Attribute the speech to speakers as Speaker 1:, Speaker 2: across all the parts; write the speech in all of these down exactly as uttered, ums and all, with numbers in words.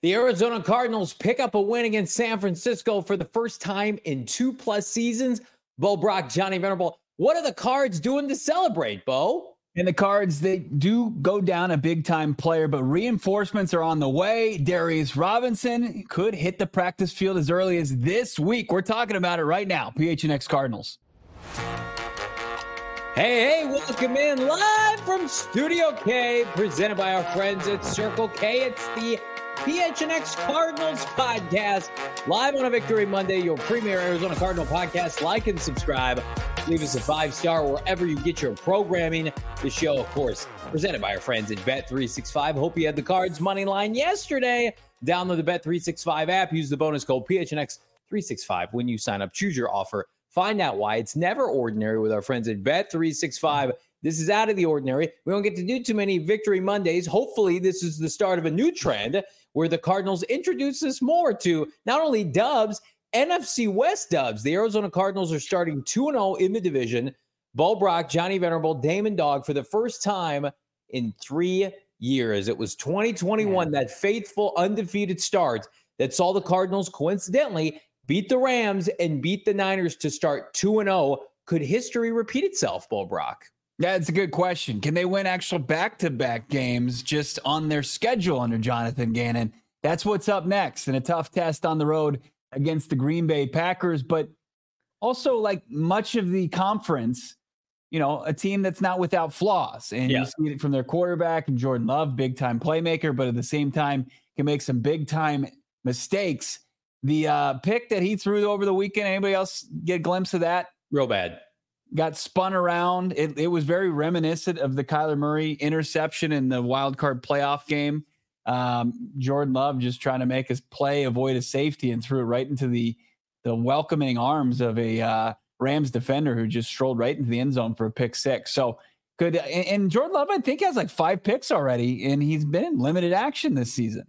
Speaker 1: The Arizona Cardinals pick up a win against San Francisco for the first time in two plus seasons. Bo Brock, Johnny Venerable. What are the Cards doing to celebrate, Bo?
Speaker 2: And the Cards, they do go down a big-time player, but reinforcements are on the way. Darius Robinson could hit the practice field as early as this week. We're talking about it right now. P H N X Cardinals.
Speaker 1: Hey, hey, welcome in live from Studio K, presented by our friends at Circle K. It's the P H N X Cardinals podcast, live on a Victory Monday, your premier Arizona Cardinal podcast. Like and subscribe. Leave us a five-star wherever you get your programming. The show, of course, presented by our friends at Bet three sixty-five. Hope you had the Cards money line yesterday. Download the Bet three sixty-five app. Use the bonus code P H N X three sixty-five when you sign up. Choose your offer. Find out why it's never ordinary with our friends at Bet three sixty-five. This is out of the ordinary. We don't get to do too many Victory Mondays. Hopefully, this is the start of a new trend where the Cardinals introduce us more to not only dubs, N F C West dubs. The Arizona Cardinals are starting two and oh in the division. Bo Brock, Johnny Venerable, Damon Dog for the first time in three years. It was twenty twenty-one, that faithful undefeated start that saw the Cardinals coincidentally beat the Rams and beat the Niners to start two and oh. Could history repeat itself, Bo Brock?
Speaker 2: Yeah, it's a good question. Can they win actual back-to-back games just on their schedule under Jonathan Gannon? That's what's up next, and a tough test on the road against the Green Bay Packers, but also like much of the conference, you know, a team that's not without flaws. And yeah. You see it from their quarterback and Jordan Love, big-time playmaker, but at the same time can make some big-time mistakes. The uh, pick that he threw over the weekend, anybody else get a glimpse of that?
Speaker 1: Real bad.
Speaker 2: Got spun around. It, it was very reminiscent of the Kyler Murray interception in the wild card playoff game. Um, Jordan Love just trying to make his play, avoid a safety, and threw it right into the the welcoming arms of a uh, Rams defender who just strolled right into the end zone for a pick six. So good. And, and Jordan Love, I think, has like five picks already, and he's been in limited action this season.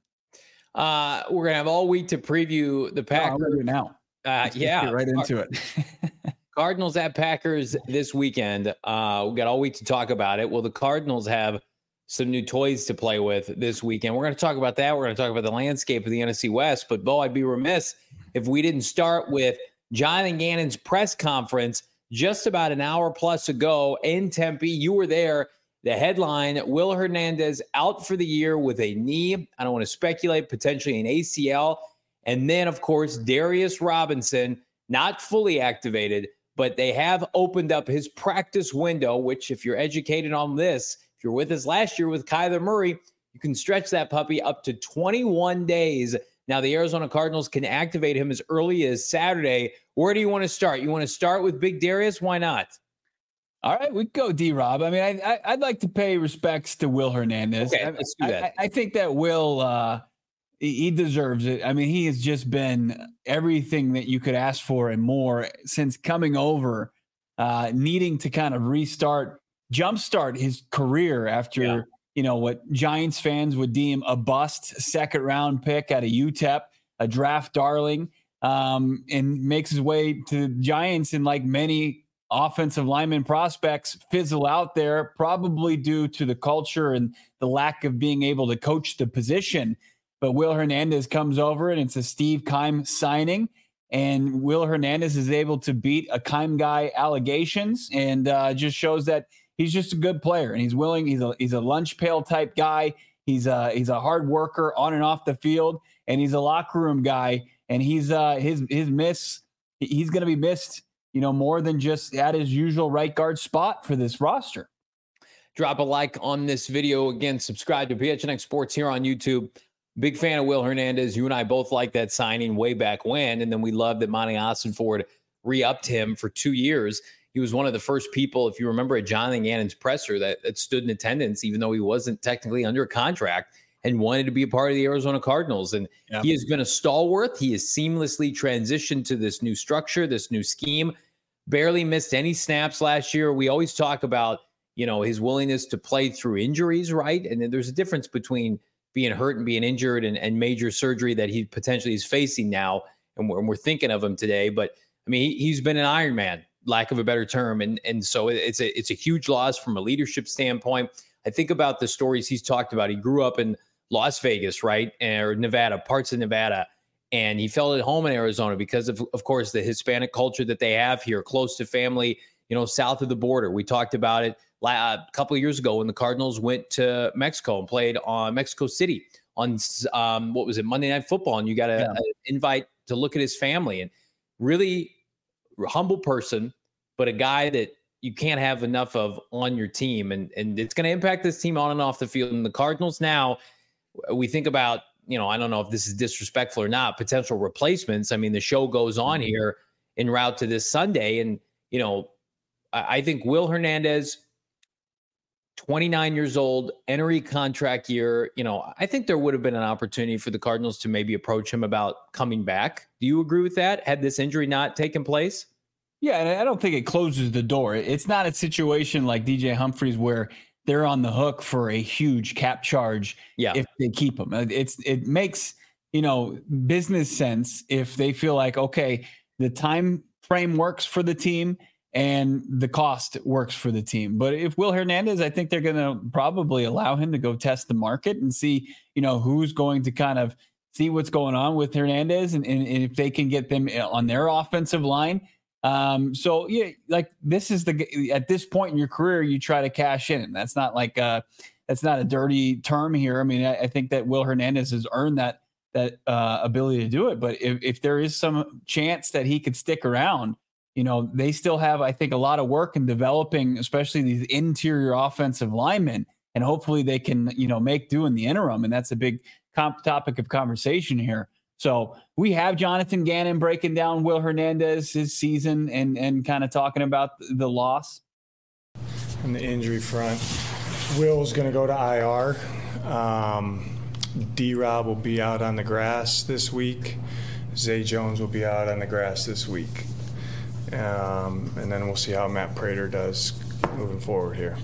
Speaker 1: Uh, we're gonna have all week to preview the Packers
Speaker 2: oh, now.
Speaker 1: Uh, yeah,
Speaker 2: get right into it.
Speaker 1: Cardinals at Packers this weekend. Uh, we got all week to talk about it. Well, the Cardinals have some new toys to play with this weekend. We're going to talk about that. We're going to talk about the landscape of the N F C West. But, Bo, I'd be remiss if we didn't start with Jonathan Gannon's press conference just about an hour plus ago in Tempe. You were there. The headline, Will Hernandez out for the year with a knee. I don't want to speculate, potentially an A C L. And then, of course, Darius Robinson, not fully activated, but they have opened up his practice window, which if you're educated on this, if you're with us last year with Kyler Murray, you can stretch that puppy up to twenty-one days. Now, the Arizona Cardinals can activate him as early as Saturday. Where do you want to start? You want to start with Big Darius? Why not?
Speaker 2: All right, we go D-Rob. I mean, I, I, I'd like to pay respects to Will Hernandez.
Speaker 1: Okay, let's do that.
Speaker 2: I, I, I think that Will, uh, he deserves it. I mean, he has just been everything that you could ask for and more since coming over, uh, needing to kind of restart, jumpstart his career after, yeah. you know, what Giants fans would deem a bust second round pick out of U T E P, a draft darling, um, and makes his way to the Giants. And like many offensive lineman prospects fizzle out there, probably due to the culture and the lack of being able to coach the position. But Will Hernandez comes over, and it's a Steve Keim signing. And Will Hernandez is able to beat a Keim guy allegations, and uh, just shows that he's just a good player. And he's willing. He's a he's a lunch pail type guy. He's a he's a hard worker on and off the field, and he's a locker room guy. And he's uh his his miss. He's going to be missed, you know, more than just at his usual right guard spot for this roster.
Speaker 1: Drop a like on this video. Again, subscribe to P H N X Sports here on YouTube. Big fan of Will Hernandez. You and I both liked that signing way back when, and then we loved that Monty Ossenford re-upped him for two years. He was one of the first people, if you remember, at Jonathan Gannon's presser that, that stood in attendance, even though he wasn't technically under contract, and wanted to be a part of the Arizona Cardinals. And yep. He has been a stalwart. He has seamlessly transitioned to this new structure, this new scheme. Barely missed any snaps last year. We always talk about, you know, his willingness to play through injuries, right? And then there's a difference between being hurt and being injured and, and major surgery that he potentially is facing now. And we're, and we're thinking of him today, but I mean, he, he's been an Iron Man, lack of a better term. And, and so it's a, it's a huge loss from a leadership standpoint. I think about the stories he's talked about. He grew up in Las Vegas, right? Or Nevada, parts of Nevada. And he felt at home in Arizona because of, of course, the Hispanic culture that they have here, close to family, you know, south of the border. We talked about it a couple of years ago when the Cardinals went to Mexico and played on Mexico City on, um, what was it, Monday Night Football. And you got an invite to look at his family, and really humble person, but a guy that you can't have enough of on your team. And, and it's going to impact this team on and off the field. And the Cardinals now, we think about, you know, I don't know if this is disrespectful or not, potential replacements. I mean, the show goes on here en route to this Sunday. And, you know, I, I think Will Hernandez, twenty-nine years old, entering contract year, you know, I think there would have been an opportunity for the Cardinals to maybe approach him about coming back. Do you agree with that? Had this injury not taken place?
Speaker 2: Yeah, and I don't think it closes the door. It's not a situation like D J Humphries where they're on the hook for a huge cap charge
Speaker 1: yeah.
Speaker 2: if they keep him. It's it makes, you know, business sense if they feel like, okay, the time frame works for the team and the cost works for the team. But if Will Hernandez, I think they're going to probably allow him to go test the market and see, you know, who's going to kind of see what's going on with Hernandez and, and, and if they can get them on their offensive line. Um, so yeah, like this is the, at this point in your career, you try to cash in. That's not like, uh, that's not a dirty term here. I mean, I, I think that Will Hernandez has earned that, that, uh, ability to do it. But if, if there is some chance that he could stick around, you know, they still have, I think, a lot of work in developing, especially these interior offensive linemen, and hopefully they can, you know, make do in the interim. And that's a big comp topic of conversation here. So we have Jonathan Gannon breaking down Will Hernandez, his season, and and kind of talking about the loss.
Speaker 3: On the injury front, Will's going to go to I R. Um, D-Rob will be out on the grass this week. Zay Jones will be out on the grass this week. Um, and then we'll see how Matt Prater does moving forward here.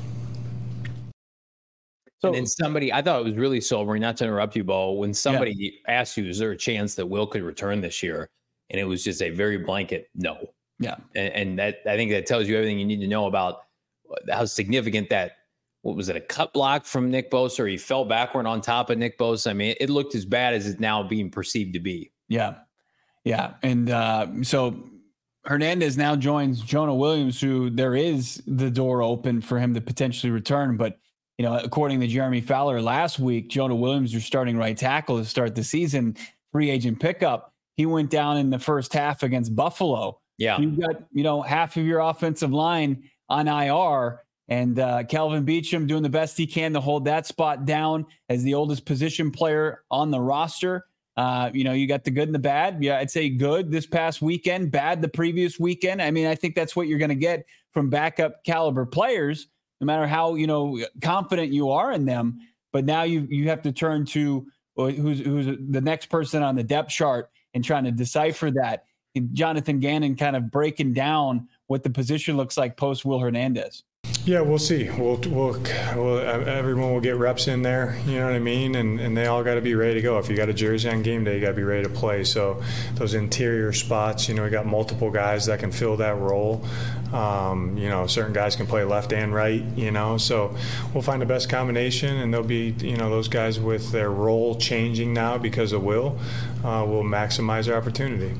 Speaker 1: So, and then somebody, I thought it was really sobering, not to interrupt you, Bo, when somebody yeah. asked you, is there a chance that Will could return this year? And it was just a very blanket no.
Speaker 2: Yeah.
Speaker 1: And, and that, I think that tells you everything you need to know about how significant that, what was it, a cut block from Nick Bosa, or he fell backward on top of Nick Bosa? I mean, it looked as bad as it's now being perceived to be.
Speaker 2: Yeah. Yeah. And uh, so Hernandez now joins Jonah Williams, who there is the door open for him to potentially return. But, you know, according to Jeremy Fowler last week, Jonah Williams, your starting right tackle to start the season, free agent pickup. He went down in the first half against Buffalo.
Speaker 1: Yeah.
Speaker 2: You've got, you know, half of your offensive line on I R, and uh, Kelvin Beachum doing the best he can to hold that spot down as the oldest position player on the roster. Uh, you know, you got the good and the bad. Yeah, I'd say good this past weekend, bad the previous weekend. I mean, I think that's what you're going to get from backup caliber players, no matter how, you know, confident you are in them. But now you you have to turn to who's who's the next person on the depth chart and trying to decipher that. And Jonathan Gannon kind of breaking down what the position looks like post Will Hernandez.
Speaker 3: Yeah, we'll see. We'll, we'll, we'll, everyone will get reps in there, you know what I mean? And and they all got to be ready to go. If you got a jersey on game day, you got to be ready to play. So those interior spots, you know, we got multiple guys that can fill that role. Um, you know, certain guys can play left and right, you know. So we'll find the best combination, and there'll be, you know, those guys with their role changing now because of Will uh, will maximize their opportunity.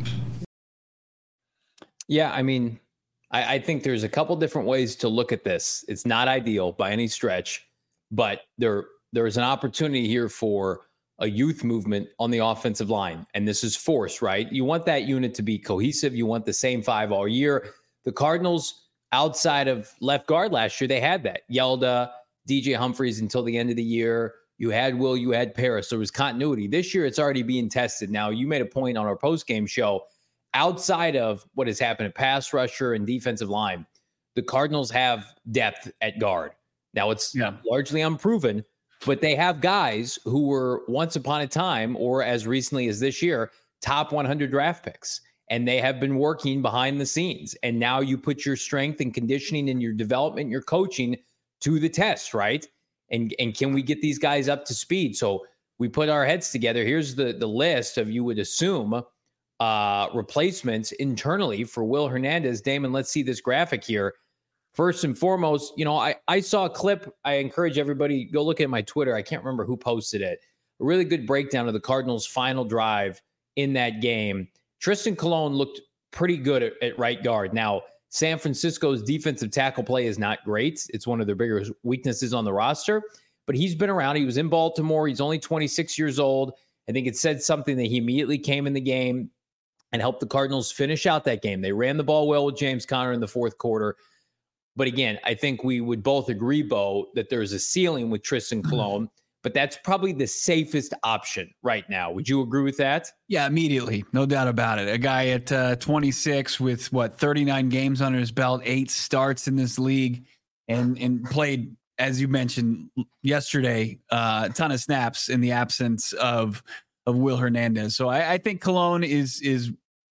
Speaker 1: Yeah, I mean, I, I think there's a couple different ways to look at this. It's not ideal by any stretch, but there there is an opportunity here for a youth movement on the offensive line. And this is force, right? You want that unit to be cohesive. You want the same five all year. The Cardinals, outside of left guard last year, they had that. Yelda, D J Humphries until the end of the year. You had Will, you had Paris. There was continuity. This year, it's already being tested. Now, you made a point on our post-game show. Outside of what has happened at pass rusher and defensive line, the Cardinals have depth at guard. Now, it's yeah. largely unproven, but they have guys who were once upon a time, or as recently as this year, top one hundred draft picks. And they have been working behind the scenes. And now you put your strength and conditioning and your development, your coaching to the test, right? And and can we get these guys up to speed? So we put our heads together. Here's the, the list of, you would assume, uh, replacements internally for Will Hernandez. Damon, let's see this graphic here. First and foremost, you know, I, I saw a clip. I encourage everybody, go look at my Twitter. I can't remember who posted it. a really good breakdown of the Cardinals' final drive in that game. Tristan Colon looked pretty good at, at right guard. Now, San Francisco's defensive tackle play is not great. It's one of their bigger weaknesses on the roster, but he's been around. He was in Baltimore. He's only twenty-six years old. I think it said something that he immediately came in the game and helped the Cardinals finish out that game. They ran the ball well with James Conner in the fourth quarter. But again, I think we would both agree, Bo, that there's a ceiling with Tristan Colon, mm-hmm. but that's probably the safest option right now. Would you agree with that?
Speaker 2: Yeah, immediately. No doubt about it. A guy at uh, twenty-six with, what, thirty-nine games under his belt, eight starts in this league, and and played, as you mentioned yesterday, uh, a ton of snaps in the absence of of Will Hernandez. So I, I think Colon is is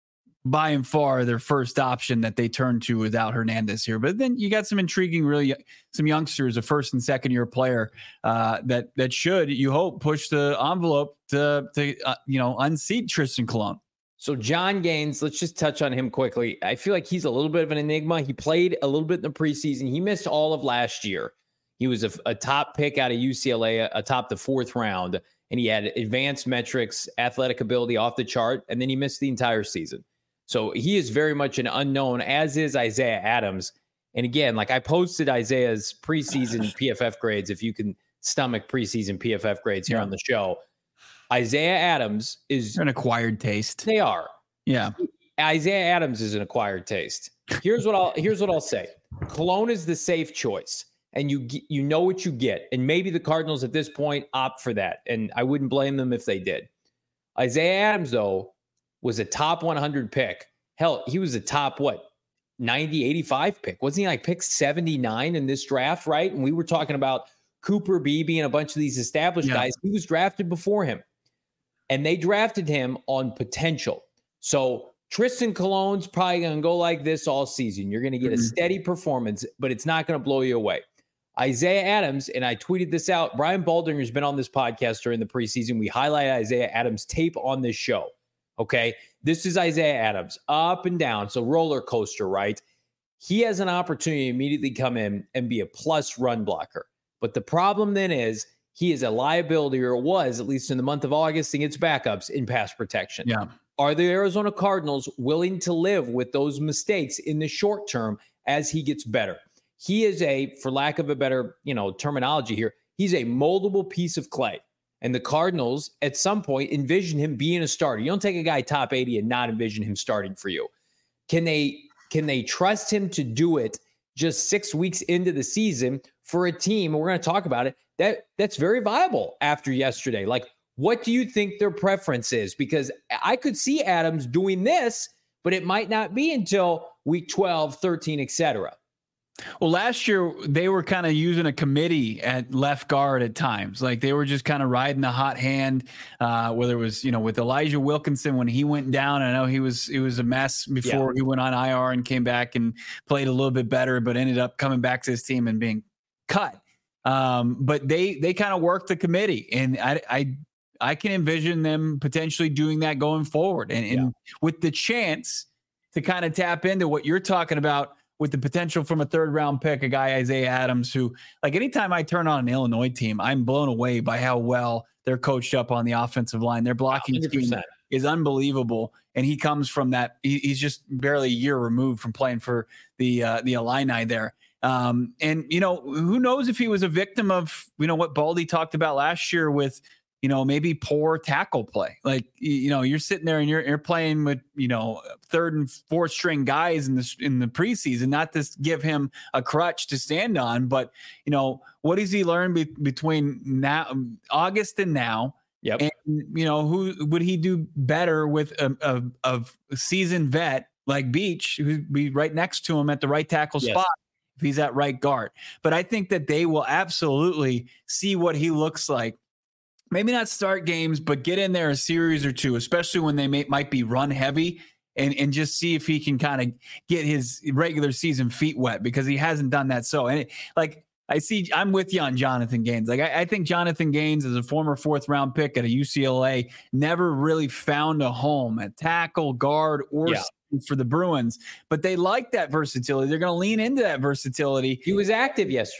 Speaker 2: by and far their first option that they turn to without Hernandez here. But then you got some intriguing, really some youngsters, a first and second year player uh, that that should, you hope, push the envelope to to uh, you know unseat Tristan Colon.
Speaker 1: So John Gaines, let's just touch on him quickly. I feel like he's a little bit of an enigma. He played a little bit in the preseason. He missed all of last year. He was a, a top pick out of U C L A, atop the fourth round, and he had advanced metrics, athletic ability off the chart, and then he missed the entire season. So he is very much an unknown, as is Isaiah Adams. And again, like I posted Isaiah's preseason P F F grades, if you can stomach preseason P F F grades here yeah. on the show. Isaiah Adams is
Speaker 2: They're an acquired taste.
Speaker 1: They are.
Speaker 2: Yeah.
Speaker 1: Isaiah Adams is an acquired taste. Here's what I'll here's what I'll say. Colon is the safe choice, and you you know what you get. And maybe the Cardinals at this point opt for that, and I wouldn't blame them if they did. Isaiah Adams, though, was a top one hundred pick. Hell, he was a top, what, ninety, eighty-five pick. Wasn't he like pick seventy-nine in this draft, right? And we were talking about Cooper Beebe and a bunch of these established yeah. guys. He was drafted before him. And they drafted him on potential. So Tristan Colon's probably going to go like this all season. You're going to get mm-hmm. a steady performance, but it's not going to blow you away. Isaiah Adams, and I tweeted this out, Brian Baldinger has been on this podcast during the preseason. We highlight Isaiah Adams' tape on this show. Okay, this is Isaiah Adams, up and down, so roller coaster, right? He has an opportunity to immediately come in and be a plus run blocker. But the problem then is he is a liability, or was, at least in the month of August, against backups in pass protection.
Speaker 2: Yeah.
Speaker 1: Are the Arizona Cardinals willing to live with those mistakes in the short term as he gets better? He is a, for lack of a better, you know, terminology here, he's a moldable piece of clay. And the Cardinals, at some point, envision him being a starter. You don't take a guy top eighty and not envision him starting for you. Can they can they trust him to do it just six weeks into the season for a team, and we're going to talk about it, that that's very viable after yesterday? Like, what do you think their preference is? Because I could see Adams doing this, but it might not be until week twelve, thirteen, et cetera.
Speaker 2: Well, last year they were kind of using a committee at left guard at times. Like they were just kind of riding the hot hand, uh, whether it was, you know, with Elijah Wilkinson when he went down. I know he was, it was a mess before yeah. he went on I R and came back and played a little bit better, but ended up coming back to his team and being cut. Um, but they, they kind of worked the committee, and I, I, I can envision them potentially doing that going forward. And, and yeah. with the chance to kind of tap into what you're talking about, with the potential from a third round pick, a guy, Isaiah Adams, who, like, anytime I turn on an Illinois team, I'm blown away by how well they're coached up on the offensive line. Their blocking scheme is unbelievable. And he comes from that. He, he's just barely a year removed from playing for the, uh, the Illini there. Um, and, you know, who knows if he was a victim of, you know, what Baldy talked about last year with, you know, maybe poor tackle play. Like, you know, you're sitting there and you're, you're playing with, you know, third and fourth string guys in the, in the preseason, not to give him a crutch to stand on, but, you know, what does he learn be, between now, August and now?
Speaker 1: Yep.
Speaker 2: And, you know, who would he do better with a, a, a seasoned vet like Beach, who'd be right next to him at the right tackle yes. spot if he's at right guard? But I think that they will absolutely see what he looks like. Maybe not start games, but get in there a series or two, especially when they may, might be run heavy, and, and just see if he can kind of get his regular season feet wet, because he hasn't done that. So, and it, like, I see, I'm with you on Jonathan Gaines. Like, I, I think Jonathan Gaines, as a former fourth round pick at a U C L A, never really found a home at tackle, guard, or
Speaker 1: yeah.
Speaker 2: for the Bruins, but they like that versatility. They're going to lean into that versatility.
Speaker 1: He was active yesterday.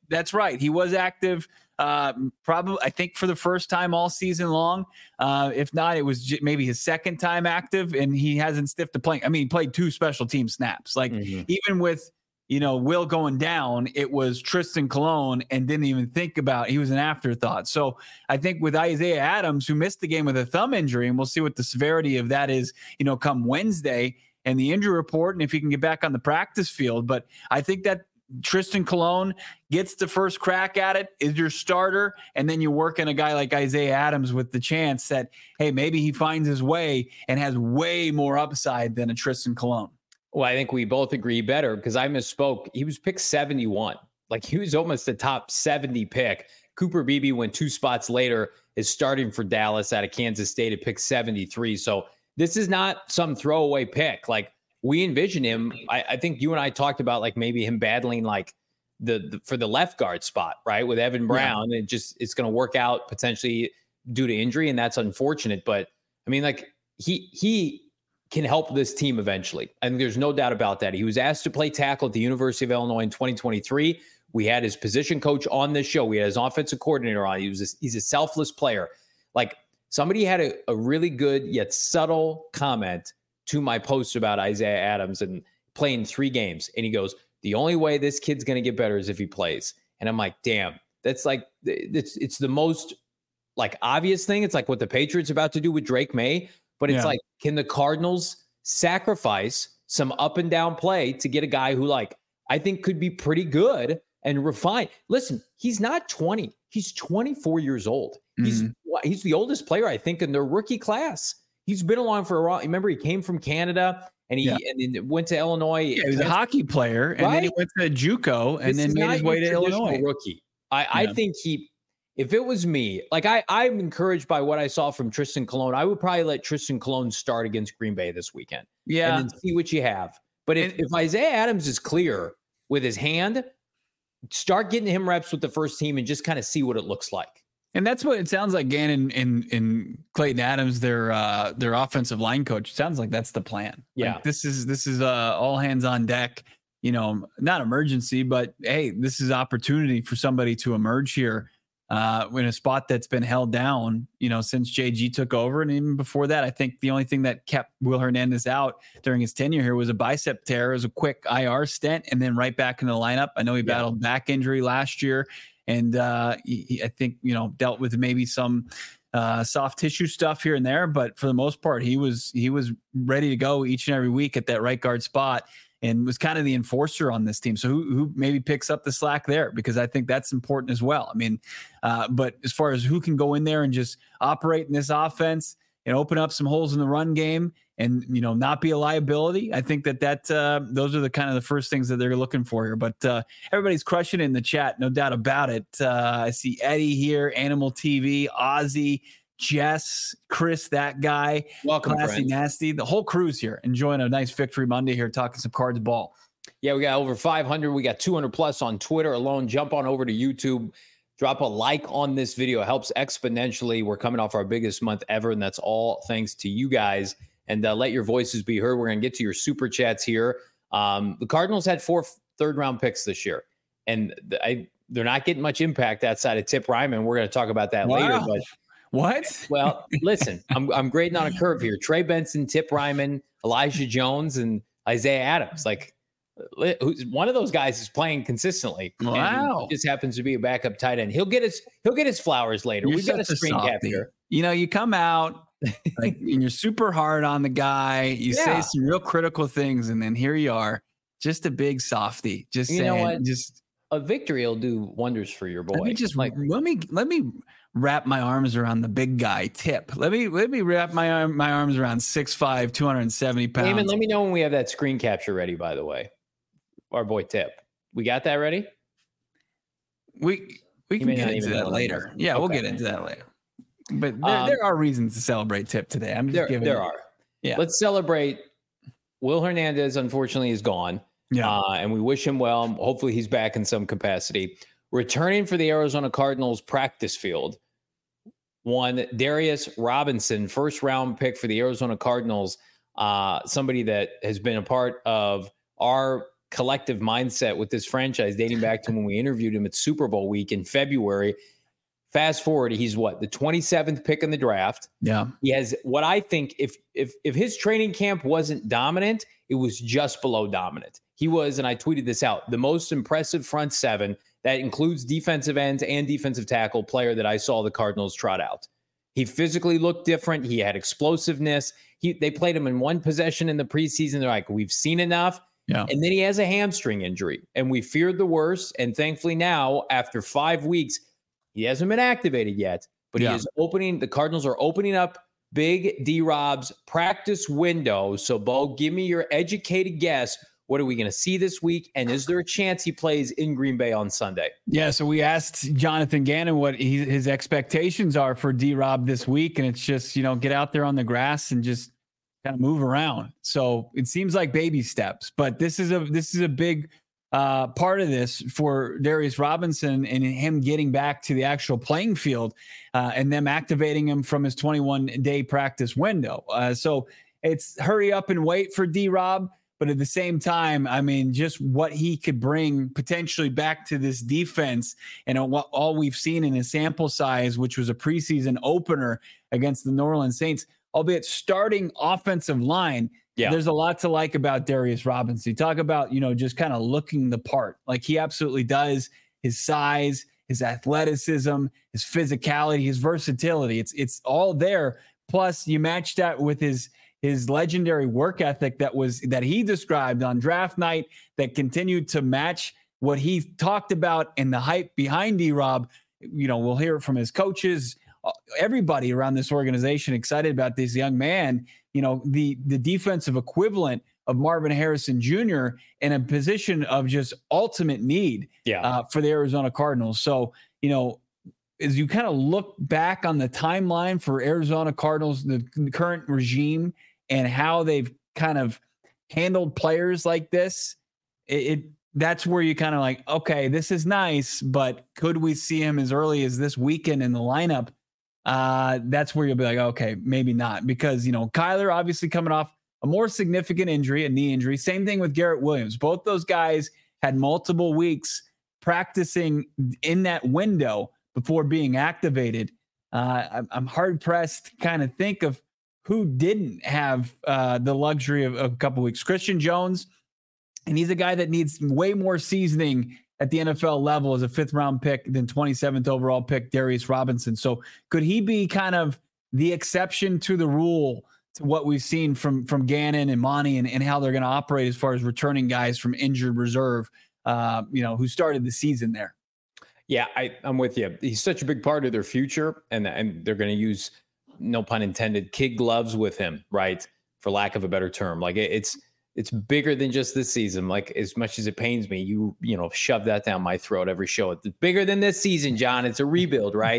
Speaker 2: That's right. He was active. Uh, probably, I think for the first time all season long. Uh, if not, it was j- maybe his second time active, and he hasn't stiffed a plank. I mean, he played two special team snaps. Like mm-hmm. even with, you know, Will going down, it was Tristan Colon and didn't even think about, he was an afterthought. So I think with Isaiah Adams, who missed the game with a thumb injury, and we'll see what the severity of that is, you know, come Wednesday and the injury report, and if he can get back on the practice field. But I think that Tristan Colon gets the first crack at it, is your starter, and then you work in a guy like Isaiah Adams with the chance that, hey, maybe he finds his way and has way more upside than a Tristan Colon.
Speaker 1: Well, I think we both agree better because I misspoke. He was picked seventy-one. Like he was almost the top seventy pick. Cooper Beebe went two spots later, is starting for Dallas out of Kansas State at pick seventy-three. So this is not some throwaway pick. Like, we envision him. I, I think you and I talked about like maybe him battling like the, the for the left guard spot, right? With Evan Brown. Yeah. It just, it's going to work out potentially due to injury. And that's unfortunate. But I mean, like he, he can help this team eventually. And there's no doubt about that. He was asked to play tackle at the University of Illinois in twenty twenty-three. We had his position coach on this show. We had his offensive coordinator on. He was a, he's a selfless player. Like somebody had a, a really good yet subtle comment to my post about Isaiah Adams and playing three games. And he goes, the only way this kid's going to get better is if he plays. And I'm like, damn, that's like, it's, it's the most like obvious thing. It's like what the Patriots are about to do with Drake May, but it's yeah. like, can the Cardinals sacrifice some up and down play to get a guy who like, I think could be pretty good and refined? Listen, he's not twenty. He's twenty-four years old. Mm-hmm. He's, he's the oldest player, I think, in their rookie class. He's been along for a while. Remember, he came from Canada and he yeah. and then went to Illinois.
Speaker 2: Yeah, he was a hockey player, and right? then he went to JUCO, and this then made his way to Illinois.
Speaker 1: Rookie. I, yeah. I think he, if it was me, like I, I'm encouraged by what I saw from Tristan Colon. I would probably let Tristan Colon start against Green Bay this weekend.
Speaker 2: Yeah,
Speaker 1: and then see what you have. But if, and, if Isaiah Adams is clear with his hand, start getting him reps with the first team and just kind of see what it looks like.
Speaker 2: And that's what it sounds like. Gannon and, and Clayton Adams, their uh, their offensive line coach, sounds like that's the plan.
Speaker 1: Yeah,
Speaker 2: like this is this is uh, all hands on deck. You know, not emergency, but hey, this is opportunity for somebody to emerge here uh, in a spot that's been held down. You know, since J G took over, and even before that, I think the only thing that kept Will Hernandez out during his tenure here was a bicep tear, as a quick I R stint, and then right back in the lineup. I know he yeah. battled back injury last year. And uh, he, he, I think, you know, dealt with maybe some uh, soft tissue stuff here and there. But for the most part, he was he was ready to go each and every week at that right guard spot and was kind of the enforcer on this team. So who, who maybe picks up the slack there? Because I think that's important as well. I mean, uh, but as far as who can go in there and just operate in this offense and open up some holes in the run game and, you know, not be a liability, I think that that uh, those are the kind of the first things that they're looking for here. But uh, everybody's crushing it in the chat, no doubt about it. Uh, I see Eddie here, Animal T V, Ozzy, Jess, Chris, that guy,
Speaker 1: welcome,
Speaker 2: Classy
Speaker 1: friends.
Speaker 2: Nasty, the whole crew's here, enjoying a nice victory Monday here, talking some cards ball.
Speaker 1: Yeah, we got over five hundred. We got two hundred plus on Twitter alone. Jump on over to YouTube. Drop a like on this video. It helps exponentially. We're coming off our biggest month ever, and that's all thanks to you guys. And uh, let your voices be heard. We're going to get to your super chats here. Um, the Cardinals had four third-round picks this year, and I, they're not getting much impact outside of Tip Ryman. We're going to talk about that wow. later. But
Speaker 2: what?
Speaker 1: Well, listen, I'm I'm grading on a curve here. Trey Benson, Tip Ryman, Elijah Jones, and Isaiah Adams. Like, who's one of those guys is playing consistently.
Speaker 2: Wow.
Speaker 1: He just happens to be a backup tight end. He'll get his he'll get his flowers later. You're We've got a screen cap here.
Speaker 2: You know, you come out like and you're super hard on the guy. You yeah. say some real critical things, and then here you are, just a big softy. Just
Speaker 1: you
Speaker 2: saying,
Speaker 1: know what?
Speaker 2: Just
Speaker 1: a victory will do wonders for your boy.
Speaker 2: Let me just
Speaker 1: like
Speaker 2: let me let me wrap my arms around the big guy, Tip. Let me let me wrap my arm, my arms around six five, two hundred seventy pounds.
Speaker 1: Damon, let me know when we have that screen capture ready. By the way, our boy Tip, we got that ready.
Speaker 2: We we can get into that later. Yeah, okay. We'll get into that later. But there, um, there are reasons to celebrate Tip today. I'm just
Speaker 1: there,
Speaker 2: giving.
Speaker 1: There it. are. Yeah. Let's celebrate. Will Hernandez, unfortunately, is gone.
Speaker 2: Yeah.
Speaker 1: Uh, and we wish him well. Hopefully, he's back in some capacity. Returning for the Arizona Cardinals practice field, one Darius Robinson, first round pick for the Arizona Cardinals. Uh, somebody that has been a part of our collective mindset with this franchise dating back to when we interviewed him at Super Bowl week in February. Fast forward, he's what, the twenty-seventh pick in the draft.
Speaker 2: Yeah.
Speaker 1: He has what I think if if if his training camp wasn't dominant, it was just below dominant. He was, and I tweeted this out, the most impressive front seven that includes defensive ends and defensive tackle player that I saw the Cardinals trot out. He physically looked different. He had explosiveness. He they played him in one possession in the preseason. They're like, we've seen enough.
Speaker 2: Yeah.
Speaker 1: And then he has a hamstring injury, and we feared the worst. And thankfully now, after five weeks, he hasn't been activated yet, but yeah. he is opening. The Cardinals are opening up Big D-Rob's practice window. So, Bo, give me your educated guess. What are we going to see this week? And is there a chance he plays in Green Bay on Sunday?
Speaker 2: Yeah, so we asked Jonathan Gannon what he, his expectations are for D-Rob this week, and it's just, you know, get out there on the grass and just kind of move around. So it seems like baby steps, but this is a this is a big uh, part of this for Darius Robinson and him getting back to the actual playing field uh, and them activating him from his twenty-one day practice window. Uh, so it's hurry up and wait for D-Rob. But at the same time, I mean, just what he could bring potentially back to this defense and what all we've seen in his sample size, which was a preseason opener against the New Orleans Saints, albeit starting offensive line. Yeah. There's a lot to like about Darius Robinson. You talk about, you know, just kind of looking the part. Like he absolutely does. His size, his athleticism, his physicality, his versatility. It's it's all there. Plus, you match that with his his legendary work ethic that was that he described on draft night that continued to match what he talked about and the hype behind D-Rob. You know, we'll hear it from his coaches, everybody around this organization excited about this young man. You know, the the defensive equivalent of Marvin Harrison Junior in a position of just ultimate need
Speaker 1: yeah.
Speaker 2: uh, for the Arizona Cardinals. So, you know, as you kind of look back on the timeline for Arizona Cardinals, the, the current regime, and how they've kind of handled players like this, it, it that's where you kind of like, okay, this is nice, but could we see him as early as this weekend in the lineup? Uh, that's where you'll be like, okay, maybe not, because, you know, Kyler obviously coming off a more significant injury, a knee injury. Same thing with Garrett Williams. Both those guys had multiple weeks practicing in that window before being activated. Uh, I'm, I'm hard pressed to kind of think of who didn't have uh, the luxury of, of a couple weeks. Christian Jones, and he's a guy that needs way more seasoning at the N F L level as a fifth round pick than twenty-seventh overall pick Darius Robinson. So could he be kind of the exception to the rule to what we've seen from, from Gannon and Monty and, and how they're going to operate as far as returning guys from injured reserve, uh, you know, who started the season there?
Speaker 1: Yeah, I, I'm with you. He's such a big part of their future, and, and they're going to use, no pun intended, kid gloves with him, right? For lack of a better term. Like it, it's it's bigger than just this season. Like as much as it pains me, you you know, shove that down my throat every show. It's bigger than this season, John. It's a rebuild, right?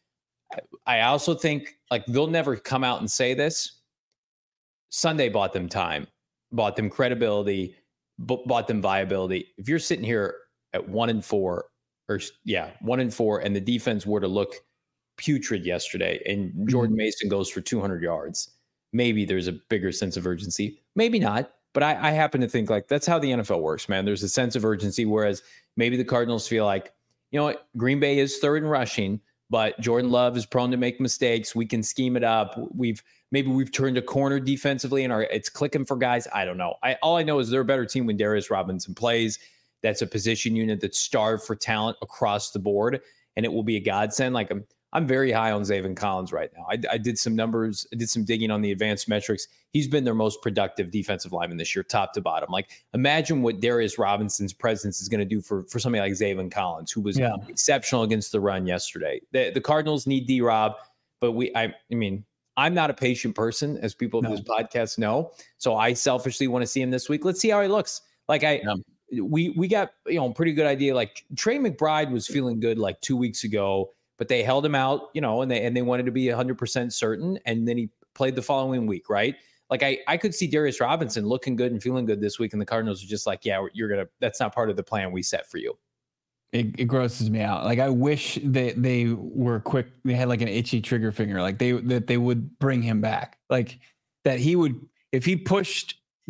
Speaker 1: I also think like they'll never come out and say this. Sunday bought them time, bought them credibility, b- bought them viability. If you're sitting here at one and four, or yeah, one and four, and the defense were to look putrid yesterday, and Jordan Mason goes for two hundred yards, maybe there's a bigger sense of urgency. Maybe not, but I, I happen to think like that's how the N F L works, man. There's a sense of urgency, whereas maybe the Cardinals feel like, you know what, Green Bay is third in rushing, but Jordan Love is prone to make mistakes. We can scheme it up. We've maybe we've turned a corner defensively, and our it's clicking for guys. I don't know. I all I know is they're a better team when Darius Robinson plays. That's a position unit that's starved for talent across the board, and it will be a godsend. Like I'm, I'm very high on Zaven Collins right now. I, I did some numbers, I did some digging on the advanced metrics. He's been their most productive defensive lineman this year, top to bottom. Like imagine what Darius Robinson's presence is going to do for, for somebody like Zaven Collins, who was yeah. exceptional against the run yesterday. The, the Cardinals need D-Rob, but we, I, I mean, I'm not a patient person, as people of no. this podcast know. So I selfishly want to see him this week. Let's see how he looks. Like I, no. we we got, you know, a pretty good idea. Like Trey McBride was feeling good like two weeks ago, but they held him out, you know, and they and they wanted to be one hundred percent certain, and then he played the following week, right? Like I, I could see Darius Robinson looking good and feeling good this week, and the Cardinals are just like, yeah, you're gonna. That's not part of the plan we set for you.
Speaker 2: It, it grosses me out. Like I wish that they were quick. They had like an itchy trigger finger. Like they that they would bring him back. Like that he would, if he pushed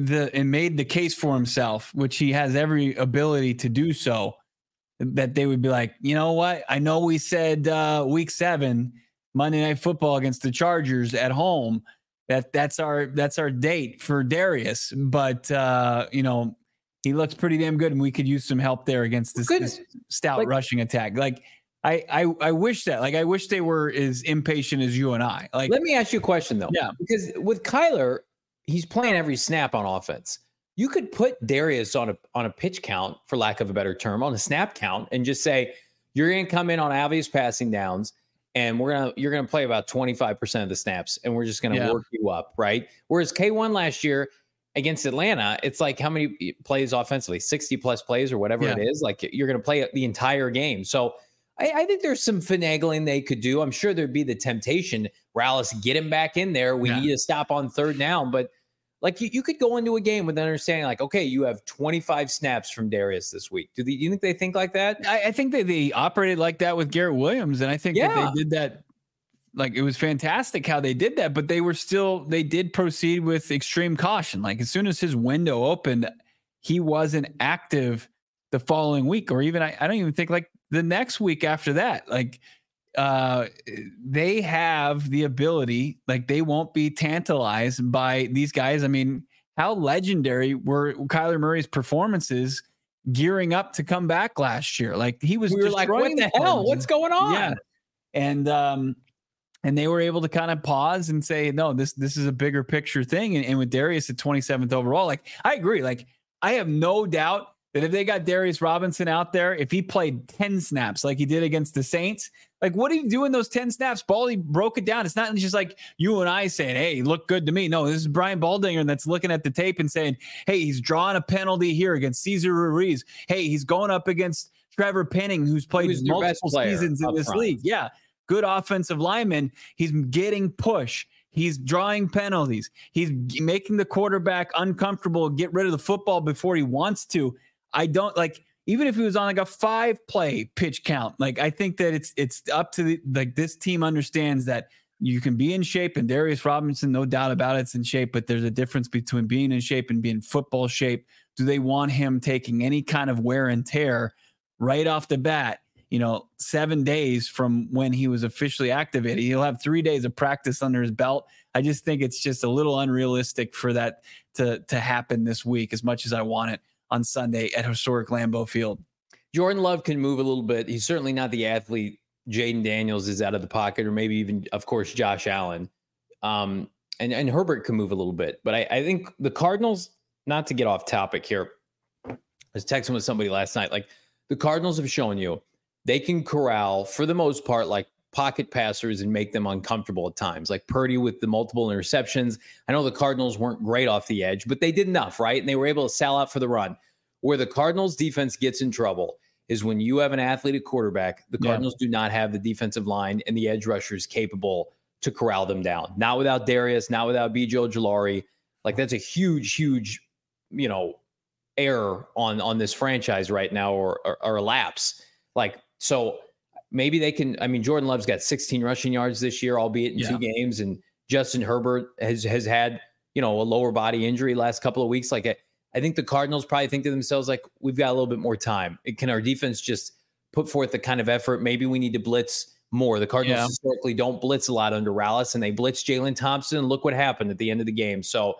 Speaker 2: the and made the case for himself, which he has every ability to do so, that they would be like, you know what? I know we said uh, week seven, Monday Night Football against the Chargers at home, that that's our that's our date for Darius, but uh, you know, he looks pretty damn good, and we could use some help there against this, this stout like, rushing attack. Like, I, I I wish that, like, I wish they were as impatient as you and I. Like,
Speaker 1: let me ask you a question though.
Speaker 2: Yeah,
Speaker 1: because with Kyler, he's playing every snap on offense. You could put Darius on a on a pitch count, for lack of a better term, on a snap count, and just say you're going to come in on obvious passing downs, and we're gonna you're gonna play about twenty-five percent of the snaps, and we're just going to yeah. work you up, right? Whereas K one last year against Atlanta, it's like how many plays offensively, sixty plus plays or whatever yeah. it is. Like, you're going to play the entire game. So I, I think there's some finagling they could do. I'm sure there'd be the temptation, Rallis, get him back in there. We yeah. need to stop on third down, but. Like, you, you could go into a game with understanding, like, okay, you have twenty-five snaps from Darius this week. Do, they, do you think they think like that?
Speaker 2: I, I think that they operated like that with Garrett Williams, and I think yeah. that they did that. Like, it was fantastic how they did that, but they were still, they did proceed with extreme caution. Like, as soon as his window opened, he wasn't active the following week, or even, I, I don't even think, like, the next week after that. Like, uh they have the ability, like, they won't be tantalized by these guys. I mean, how legendary were Kyler Murray's performances gearing up to come back last year? Like, he was
Speaker 1: we were like, what the hell? What's going on?
Speaker 2: Yeah. And um and they were able to kind of pause and say, no, this this is a bigger picture thing. And, and with Darius at twenty-seventh overall, like, I agree. Like, I have no doubt that if they got Darius Robinson out there, if he played ten snaps like he did against the Saints, like, what did he do in those ten snaps? Baldy broke it down. It's not just like you and I saying, hey, he looked good to me. No, this is Brian Baldinger that's looking at the tape and saying, hey, he's drawing a penalty here against Cesar Ruiz. Hey, he's going up against Trevor Penning, who's played who's multiple seasons in this front. league. Yeah, good offensive lineman. He's getting push. He's drawing penalties. He's making the quarterback uncomfortable, get rid of the football before he wants to. I don't like, even if he was on like a five play pitch count, like, I think that it's, it's up to the, like, this team understands that you can be in shape, and Darius Robinson, no doubt about it's in shape, but there's a difference between being in shape and being football shape. Do they want him taking any kind of wear and tear right off the bat? You know, seven days from when he was officially activated, he'll have three days of practice under his belt. I just think it's just a little unrealistic for that to, to happen this week, as much as I want it on Sunday at historic Lambeau Field.
Speaker 1: Jordan Love can move a little bit. He's certainly not the athlete Jaden Daniels is out of the pocket, or maybe even, of course, Josh Allen. Um, and, and Herbert can move a little bit. But I, I think the Cardinals, not to get off topic here, I was texting with somebody last night, like, the Cardinals have shown you they can corral, for the most part, like, pocket passers and make them uncomfortable at times, like Purdy with the multiple interceptions. I know the Cardinals weren't great off the edge, but they did enough, right? And they were able to sell out for the run. Where the Cardinals defense gets in trouble is when you have an athletic quarterback. The Cardinals yeah. do not have the defensive line and the edge rushers capable to corral them down. Not without Darius, not without B J Ojulari. Like, that's a huge, huge, you know, error on, on this franchise right now, or, or, or a lapse. Like, so maybe they can, I mean, Jordan Love's got sixteen rushing yards this year, albeit in yeah. two games. And Justin Herbert has, has had, you know, a lower body injury last couple of weeks. Like, I, I think the Cardinals probably think to themselves, like, we've got a little bit more time. Can our defense just put forth the kind of effort? Maybe we need to blitz more. The Cardinals yeah. historically don't blitz a lot under Rallis, and they blitzed Jalen Thompson. And look what happened at the end of the game. So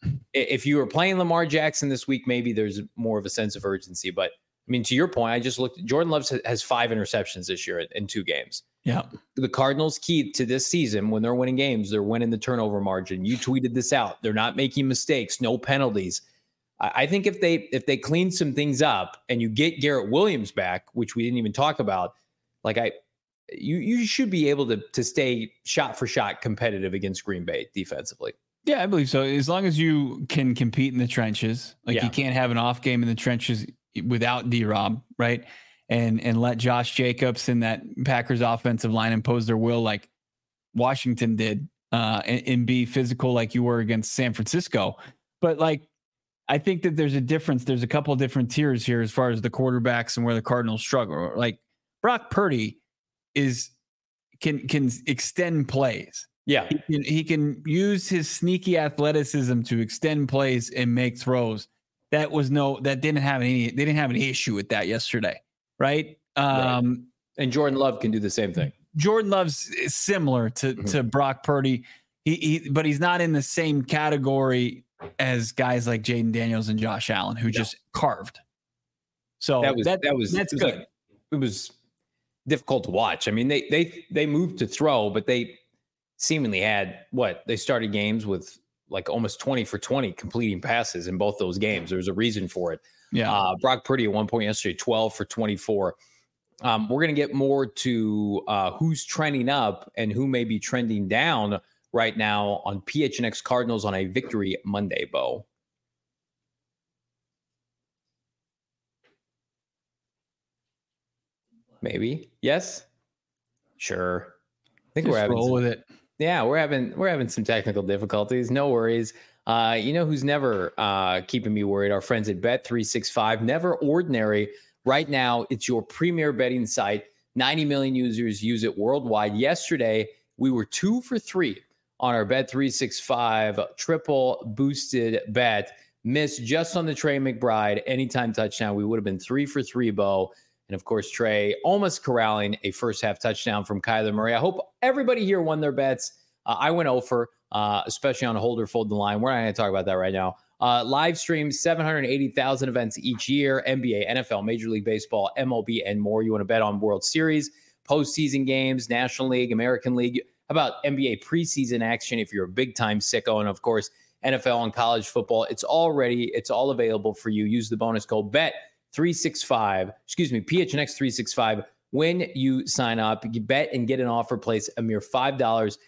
Speaker 1: if you were playing Lamar Jackson this week, maybe there's more of a sense of urgency. But I mean, to your point, I just looked. Jordan Love has five interceptions this year in two games.
Speaker 2: Yeah.
Speaker 1: The Cardinals' key to this season, when they're winning games, they're winning the turnover margin. You tweeted this out. They're not making mistakes, no penalties. I think if they if they clean some things up and you get Garrett Williams back, which we didn't even talk about, like I, you you should be able to to stay shot for shot competitive against Green Bay defensively.
Speaker 2: Yeah, I believe so. As long as you can compete in the trenches, like yeah. you can't have an off game in the trenches without D-Rob, right? And and let Josh Jacobs and that Packers offensive line impose their will like Washington did, uh, and, and be physical like you were against San Francisco. But like, I think that there's a difference. There's a couple of different tiers here as far as the quarterbacks and where the Cardinals struggle. Like Brock Purdy is can can extend plays.
Speaker 1: Yeah.
Speaker 2: He can, he can use his sneaky athleticism to extend plays and make throws. That was no, that didn't have any, they didn't have any issue with that yesterday. Right. Um,
Speaker 1: right. And Jordan Love can do the same thing.
Speaker 2: Jordan Love's similar to, mm-hmm. to Brock Purdy. He, he, but he's not in the same category as guys like Jaden Daniels and Josh Allen, who no. just carved. So
Speaker 1: that was,
Speaker 2: that,
Speaker 1: that was,
Speaker 2: that's
Speaker 1: it was
Speaker 2: good.
Speaker 1: Like, it was difficult to watch. I mean, they, they, they moved to throw, but they seemingly had what they started games with like almost twenty for twenty completing passes in both those games. There was a reason for it.
Speaker 2: Yeah.
Speaker 1: Uh, Brock Purdy at one point yesterday, twelve for twenty-four. Um, we're going to get more to uh, who's trending up and who may be trending down right now on P H N X Cardinals on a Victory Monday, Bo. Maybe. Yes. Sure. I think
Speaker 2: Just
Speaker 1: we're having
Speaker 2: roll
Speaker 1: some,
Speaker 2: with it.
Speaker 1: Yeah, we're having we're having some technical difficulties. No worries. Uh, you know who's never uh, keeping me worried? Our friends at Bet three sixty-five. Never Ordinary. Right now, it's your premier betting site. ninety million users use it worldwide. Yesterday, we were two for three on our Bet three sixty-five triple boosted bet. Missed just on the Trey McBride anytime touchdown. We would have been three for three, Bo. And, of course, Trey almost corralling a first-half touchdown from Kyler Murray. I hope everybody here won their bets. Uh, I went over, uh, especially on Hold or Fold the Line. We're not going to talk about that right now. Uh, live stream, seven hundred eighty thousand events each year, N B A, N F L, Major League Baseball, M L B, and more. You want to bet on World Series, postseason games, National League, American League. How about N B A preseason action if you're a big-time sicko? And, of course, N F L and college football. It's all ready. It's all available for you. Use the bonus code B E T three sixty-five, excuse me, P H N X three sixty-five. When you sign up, you bet and get an offer place a mere five dollars.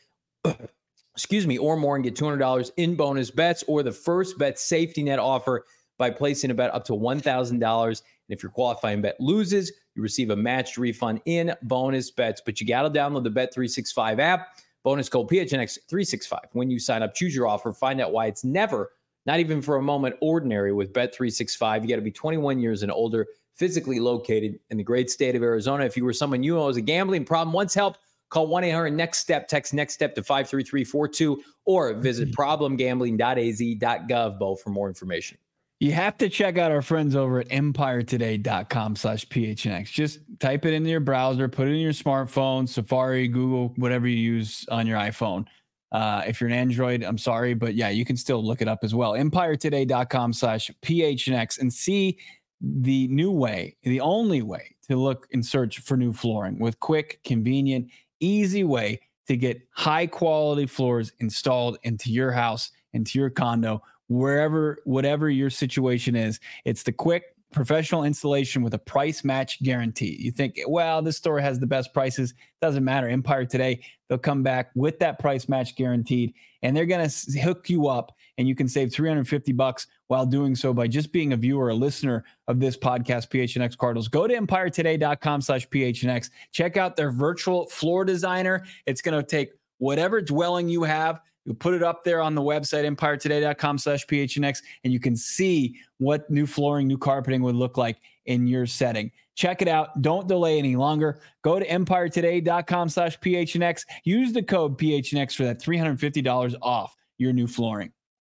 Speaker 1: excuse me, or more and get two hundred dollars in bonus bets or the first bet safety net offer by placing a bet up to one thousand dollars. And if your qualifying bet loses, you receive a matched refund in bonus bets. But you got to download the Bet three sixty-five app. Bonus code P H N X three sixty-five. When you sign up, choose your offer. Find out why it's never, not even for a moment, ordinary with Bet three sixty-five. You got to be twenty-one years and older, physically located in the great state of Arizona. If you were someone you know has a gambling problem, wants help, call one eight hundred next step, text next step to five three three four two, or visit problem gambling dot a z dot gov, Bo, for more information.
Speaker 2: You have to check out our friends over at empire today dot com slash P H N X. Just type it into your browser, put it in your smartphone, Safari, Google, whatever you use on your iPhone. Uh, if you're an Android, I'm sorry, but yeah, you can still look it up as well. empire today dot com slash P H N X and see the new way, the only way to look and search for new flooring with quick, convenient, easy way to get high quality floors installed into your house, into your condo, wherever, whatever your situation is. It's the quick professional installation with a price match guarantee. You think, well, this store has the best prices. Doesn't matter. Empire Today, they'll come back with that price match guaranteed, and they're going to hook you up, and you can save three hundred fifty bucks while doing so by just being a viewer, a listener of this podcast, P H N X Cardinals. Go to empire today dot com slash P H N X. Check out their virtual floor designer. It's going to take whatever dwelling you have. You put it up there on the website, empire today dot com slash P H N X, and you can see what new flooring, new carpeting would look like in your setting. Check it out. Don't delay any longer. Go to empire today dot com slash P H N X. Use the code P H N X for that three hundred fifty dollars off your new flooring.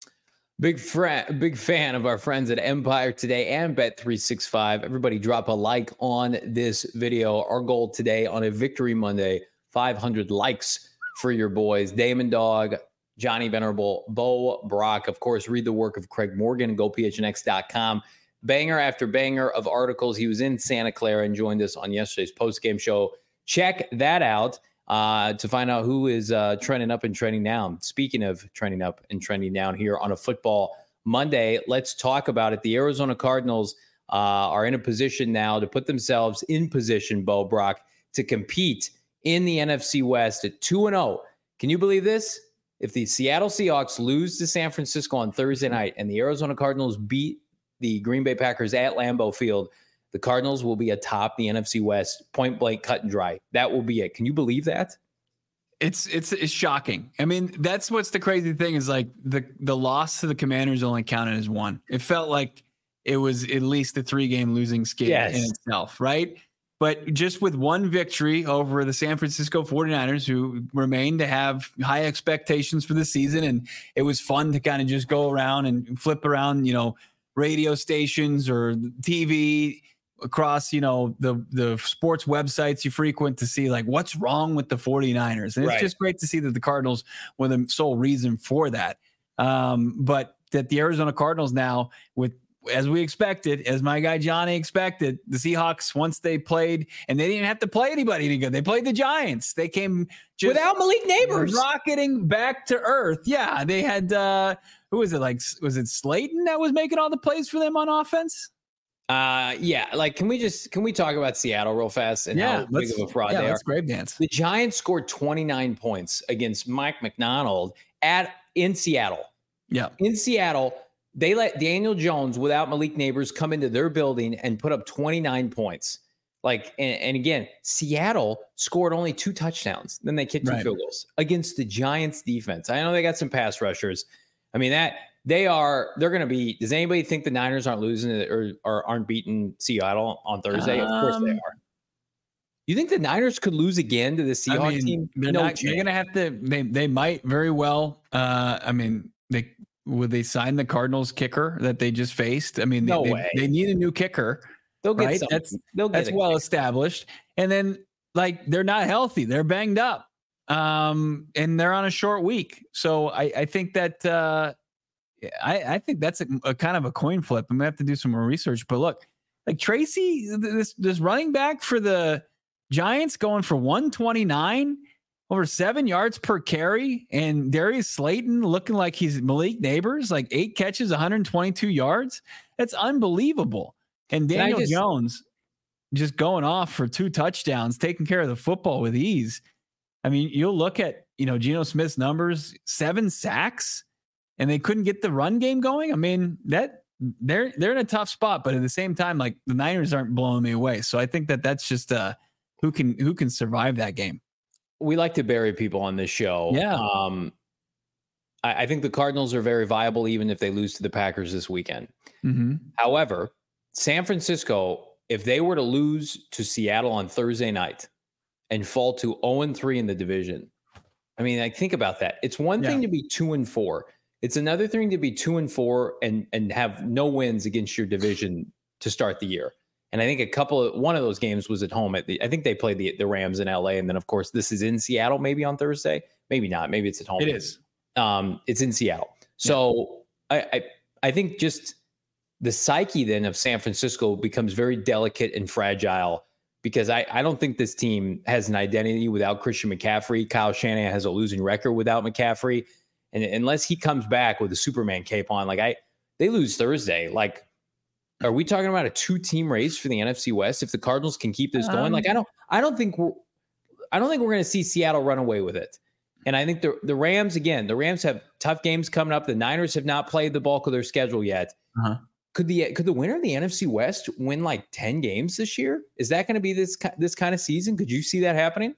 Speaker 1: Big friend, big fan of our friends at Empire Today and Bet three sixty-five. Everybody drop a like on this video. Our goal today on a Victory Monday, five hundred likes for your boys. Damon Dog, Johnny Venerable, Bo Brock. Of course, read the work of Craig Morgan. Go P H N X dot com. Banger after banger of articles. He was in Santa Clara and joined us on yesterday's post-game show. Check that out uh, to find out who is uh, trending up and trending down. Speaking of trending up and trending down here on a football Monday, let's talk about it. The Arizona Cardinals uh, are in a position now to put themselves in position, Bo Brock, to compete in the N F C West at two and oh. Can you believe this? If the Seattle Seahawks lose to San Francisco on Thursday night and the Arizona Cardinals beat the Green Bay Packers at Lambeau Field, the Cardinals will be atop the N F C West, point blank, cut and dry. That will be it. Can you believe that?
Speaker 2: It's it's it's shocking. I mean, that's what's the crazy thing is like the the loss to the Commanders only counted as one. It felt like it was at least a three game losing skid
Speaker 1: yes.
Speaker 2: in itself, right? But just with one victory over the San Francisco forty-niners, who remain to have high expectations for the season. And it was fun to kind of just go around and flip around, you know, radio stations or T V across, you know, the, the sports websites you frequent to see like what's wrong with the forty-niners. And it's
Speaker 1: right.
Speaker 2: just great to see that the Cardinals were the sole reason for that. Um, but that the Arizona Cardinals now, with as we expected, as my guy Johnny expected, the Seahawks, once they played, and they didn't have to play anybody any good. They played the Giants. They came just
Speaker 1: without Malik Neighbors,
Speaker 2: rocketing back to earth. Yeah, they had uh, who was it? Like, was it Slayton that was making all the plays for them on offense?
Speaker 1: Uh, yeah. Like, can we just can we talk about Seattle real fast and
Speaker 2: yeah,
Speaker 1: how big of a fraud
Speaker 2: yeah,
Speaker 1: they
Speaker 2: let's
Speaker 1: are?
Speaker 2: grave dance.
Speaker 1: The Giants scored twenty-nine points against Mike McDonald at in Seattle.
Speaker 2: Yeah,
Speaker 1: in Seattle. They let Daniel Jones without Malik Neighbors come into their building and put up twenty-nine points. Like, and, and again, Seattle scored only two touchdowns. Then they kicked two
Speaker 2: right.
Speaker 1: field goals against the Giants defense. I know they got some pass rushers. I mean, that they are, they're going to be, does anybody think the Niners aren't losing or, or aren't beating Seattle on Thursday? Um, of course they are. You think the Niners could lose again to the Seahawks I mean, team?
Speaker 2: They're no not, they're going to have to, they, they might very well. Uh, I mean, they, Would they sign the Cardinals kicker that they just faced? I mean, they,
Speaker 1: no
Speaker 2: they,
Speaker 1: way.
Speaker 2: they need a new kicker.
Speaker 1: They'll get
Speaker 2: right?
Speaker 1: something.
Speaker 2: That's,
Speaker 1: They'll get
Speaker 2: that's well kicker. established. And then, like, they're not healthy. They're banged up. Um, and they're on a short week. So I, I think that uh, I, I think that's a, a kind of a coin flip. I'm going to have to do some more research. But look, like Tracy, this, this running back for the Giants going for one twenty-nine over seven yards per carry, and Darius Slayton looking like he's Malik Neighbors, like eight catches, one hundred twenty-two yards. That's unbelievable. And Daniel just, Jones just going off for two touchdowns, taking care of the football with ease. I mean, you'll look at, you know, Geno Smith's numbers, seven sacks, and they couldn't get the run game going. I mean, that they're, they're in a tough spot, but at the same time, like the Niners aren't blowing me away. So I think that that's just uh who can, who can survive that game.
Speaker 1: We like to bury people on this show.
Speaker 2: Yeah.
Speaker 1: Um, I, I think the Cardinals are very viable, even if they lose to the Packers this weekend.
Speaker 2: Mm-hmm.
Speaker 1: However, San Francisco, if they were to lose to Seattle on Thursday night and fall to oh and three in the division, I mean, like, think about that. It's one yeah. thing to be two and four. It's another thing to be two and four and, and have no wins against your division to start the year. And I think a couple of one of those games was at home. At the, I think they played the, the Rams in L A. And then, of course, this is in Seattle, maybe on Thursday. Maybe not. Maybe it's at home.
Speaker 2: It is.
Speaker 1: Um, it's in Seattle. So yeah. I, I I think just the psyche then of San Francisco becomes very delicate and fragile, because I, I don't think this team has an identity without Christian McCaffrey. Kyle Shanahan has a losing record without McCaffrey. And unless he comes back with a Superman cape on, like I they lose Thursday, like, are we talking about a two-team race for the N F C West if the Cardinals can keep this going? Um, like, I don't, I don't think we're, I don't think we're going to see Seattle run away with it. And I think the the Rams, again, the Rams have tough games coming up. The Niners have not played the bulk of their schedule yet. Uh-huh. Could the could the winner of the N F C West win like ten games this year? Is that going to be this this kind of season? Could you see that happening?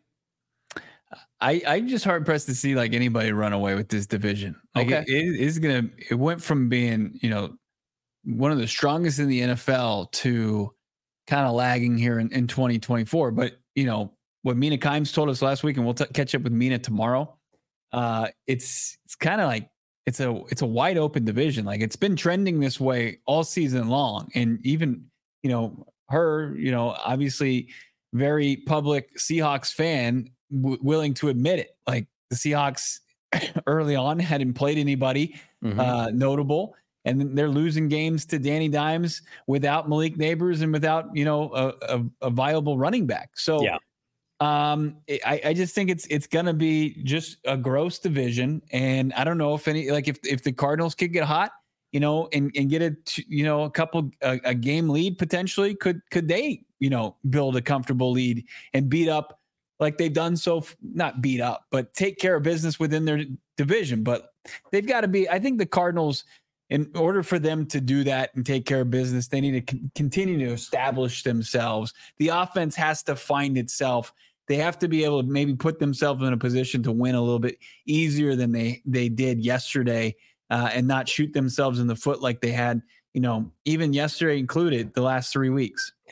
Speaker 2: I I'm just hard pressed to see like anybody run away with this division. Like
Speaker 1: okay,
Speaker 2: it, it is gonna. It went from being, you know, one of the strongest in the N F L to kind of lagging here in, in twenty twenty-four. But, you know, what Mina Kimes told us last week, and we'll t- catch up with Mina tomorrow. Uh, it's it's kind of like it's a it's a wide open division. Like it's been trending this way all season long. And even, you know, her, you know, obviously very public Seahawks fan, w- willing to admit it. Like the Seahawks early on hadn't played anybody mm-hmm. uh, notable. And they're losing games to Danny Dimes without Malik Neighbors and without, you know, a, a, a viable running back. So
Speaker 1: yeah.
Speaker 2: um, I, I just think it's it's going to be just a gross division. And I don't know if any, like if if the Cardinals could get hot, you know, and, and get a, you know, a couple, a, a game lead potentially, could could they, you know, build a comfortable lead and beat up like they've done so, not beat up, but take care of business within their division. But they've got to be, I think the Cardinals, in order for them to do that and take care of business, they need to c- continue to establish themselves. The offense has to find itself. They have to be able to maybe put themselves in a position to win a little bit easier than they, they did yesterday uh, and not shoot themselves in the foot like they had, you know, even yesterday included the last three weeks.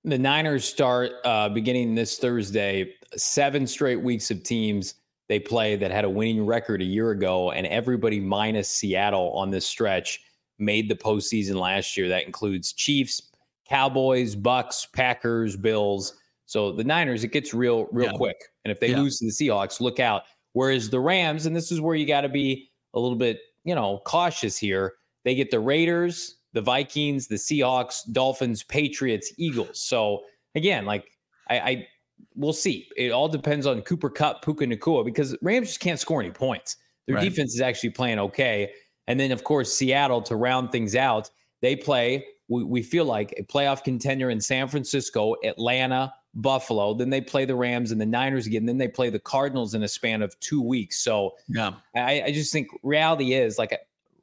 Speaker 1: The Niners start uh, beginning this Thursday, seven straight weeks of teams they play that had a winning record a year ago, and everybody minus Seattle on this stretch made the postseason last year. That includes Chiefs, Cowboys, Bucks, Packers, Bills. So the Niners, it gets real, real
Speaker 2: yeah.
Speaker 1: quick. And if they
Speaker 2: yeah.
Speaker 1: lose to the Seahawks, look out. Whereas the Rams, and this is where you got to be a little bit, you know, cautious here. They get the Raiders, the Vikings, the Seahawks, Dolphins, Patriots, Eagles. So again, like I, I we'll see. It all depends on Cooper Kupp, Puka Nacua, because Rams just can't score any points. Their right. defense is actually playing okay. And then, of course, Seattle, to round things out, they play, we, we feel like, a playoff contender in San Francisco, Atlanta, Buffalo. Then they play the Rams and the Niners again. Then they play the Cardinals in a span of two weeks. So yeah. I, I just think reality is like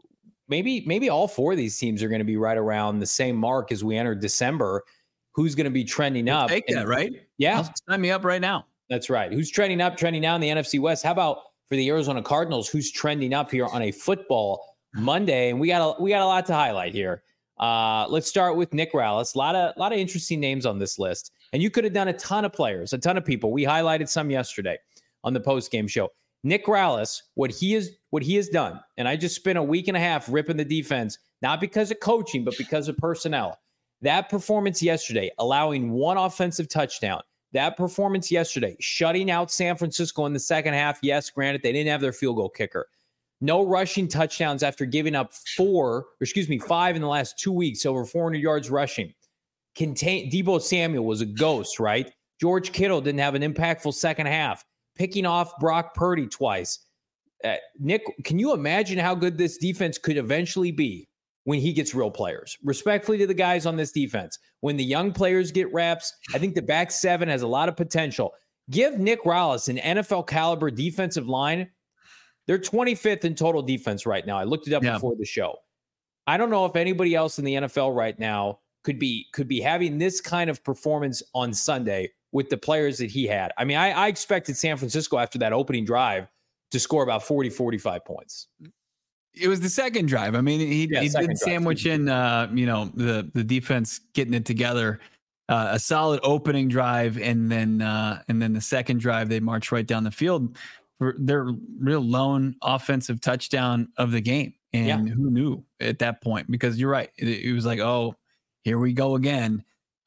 Speaker 1: maybe maybe all four of these teams are going to be right around the same mark as we enter December. Who's going to be trending
Speaker 2: we'll
Speaker 1: up?
Speaker 2: Take that,
Speaker 1: and,
Speaker 2: right?
Speaker 1: Yeah.
Speaker 2: Sign me up right now.
Speaker 1: That's right. Who's trending up, trending down in the N F C West? How about for the Arizona Cardinals, who's trending up here on a football Monday? And we got a, we got a lot to highlight here. Uh, let's start with Nick Rallis. A lot of, lot of interesting names on this list. And you could have done a ton of players, a ton of people. We highlighted some yesterday on the post-game show. Nick Rallis, what he is, what he has done, and I just spent a week and a half ripping the defense, not because of coaching, but because of personnel. That performance yesterday, allowing one offensive touchdown. That performance yesterday, shutting out San Francisco in the second half. Yes, granted, they didn't have their field goal kicker. No rushing touchdowns after giving up four, or excuse me, five in the last two weeks, over four hundred yards rushing. Contain, Deebo Samuel was a ghost, right? George Kittle didn't have an impactful second half. Picking off Brock Purdy twice. Uh, Nick, can you imagine how good this defense could eventually be when he gets real players? Respectfully to the guys on this defense, when the young players get reps, I think the back seven has a lot of potential. Give Nick Rallis an N F L caliber defensive line. They're twenty-fifth in total defense right now. I looked it up yeah. before the show. I don't know if anybody else in the N F L right now could be could be having this kind of performance on Sunday with the players that he had. I mean, I, I expected San Francisco after that opening drive to score about forty, forty-five points.
Speaker 2: It was the second drive. I mean, he, yeah, he did sandwich in, uh, you know, the, the defense getting it together, uh, a solid opening drive. And then, uh, and then the second drive, they marched right down the field for their real lone offensive touchdown of the game. And yeah. who knew at that point? Because you're right. It, it was like, oh, here we go again.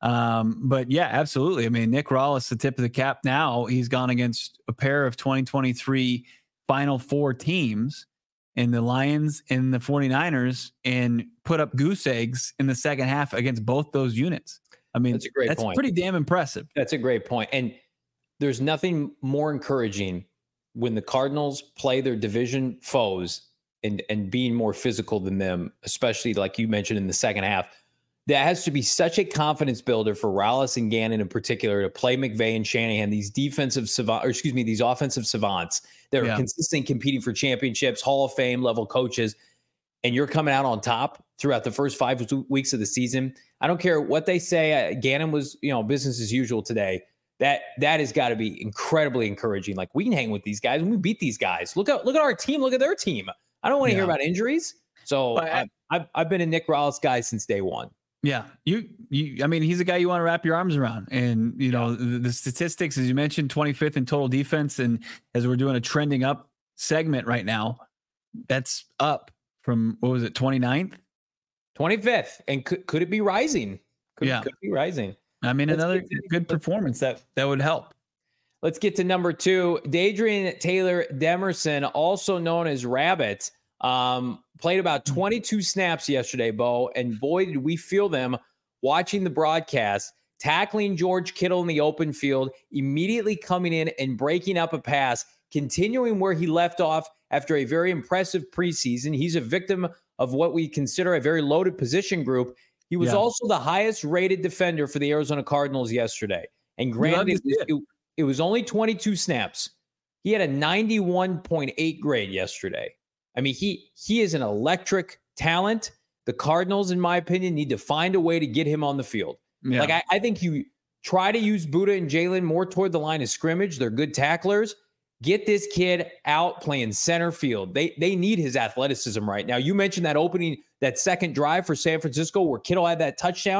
Speaker 2: Um, but yeah, absolutely. I mean, Nick Rallis, the tip of the cap now. He's gone against a pair of twenty twenty-three Final Four teams in the Lions and the 49ers and put up goose eggs in the second half against both those units. I mean, that's a great that's point. Pretty damn impressive.
Speaker 1: That's a great point. And there's nothing more encouraging when the Cardinals play their division foes and, and being more physical than them, especially like you mentioned in the second half. That has to be such a confidence builder for Rallis and Gannon in particular to play McVay and Shanahan, these defensive savants, or excuse me, these offensive savants that are yeah. consistently competing for championships, Hall of Fame level coaches, and you're coming out on top throughout the first five weeks of the season. I don't care what they say. Uh, Gannon was, you know, business as usual today. That that has got to be incredibly encouraging. Like, we can hang with these guys and we beat these guys. Look at look at our team. Look at their team. I don't want to yeah. hear about injuries. So I, I, I've I've been a Nick Rallis guy since day one.
Speaker 2: Yeah, you, you, I mean, he's a guy you want to wrap your arms around. And, you know, the, the statistics, as you mentioned, twenty-fifth in total defense. And as we're doing a trending up segment right now, that's up from, what was it, twenty-ninth?
Speaker 1: twenty-fifth. And could, could it be rising? Could,
Speaker 2: yeah.
Speaker 1: could be rising.
Speaker 2: I mean, Let's another to, good performance that, that would help.
Speaker 1: Let's get to number two. Dadrian Taylor Demerson, also known as Rabbit. Um, played about twenty-two snaps yesterday, Bo, and boy, did we feel them watching the broadcast, tackling George Kittle in the open field, immediately coming in and breaking up a pass, continuing where he left off after a very impressive preseason. He's a victim of what we consider a very loaded position group. He was yeah. also the highest rated defender for the Arizona Cardinals yesterday. And granted, it, it, it was only twenty-two snaps. He had a ninety-one point eight grade yesterday. I mean, he he is an electric talent. The Cardinals, in my opinion, need to find a way to get him on the field. Yeah. Like, I, I think you try to use Buddha and Jalen more toward the line of scrimmage. They're good tacklers. Get this kid out playing center field. They they need his athleticism right now. You mentioned that opening, that second drive for San Francisco where Kittle had that touchdown.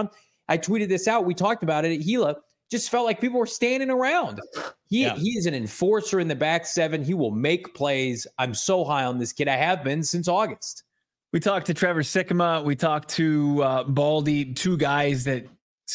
Speaker 1: I tweeted this out. We talked about it at Gila. Just felt like people were standing around. He
Speaker 2: Yeah.
Speaker 1: he is an enforcer in the back seven. He will make plays. I'm so high on this kid. I have been since August.
Speaker 2: We talked to Trevor Sikkema. We talked to uh, Baldy, two guys that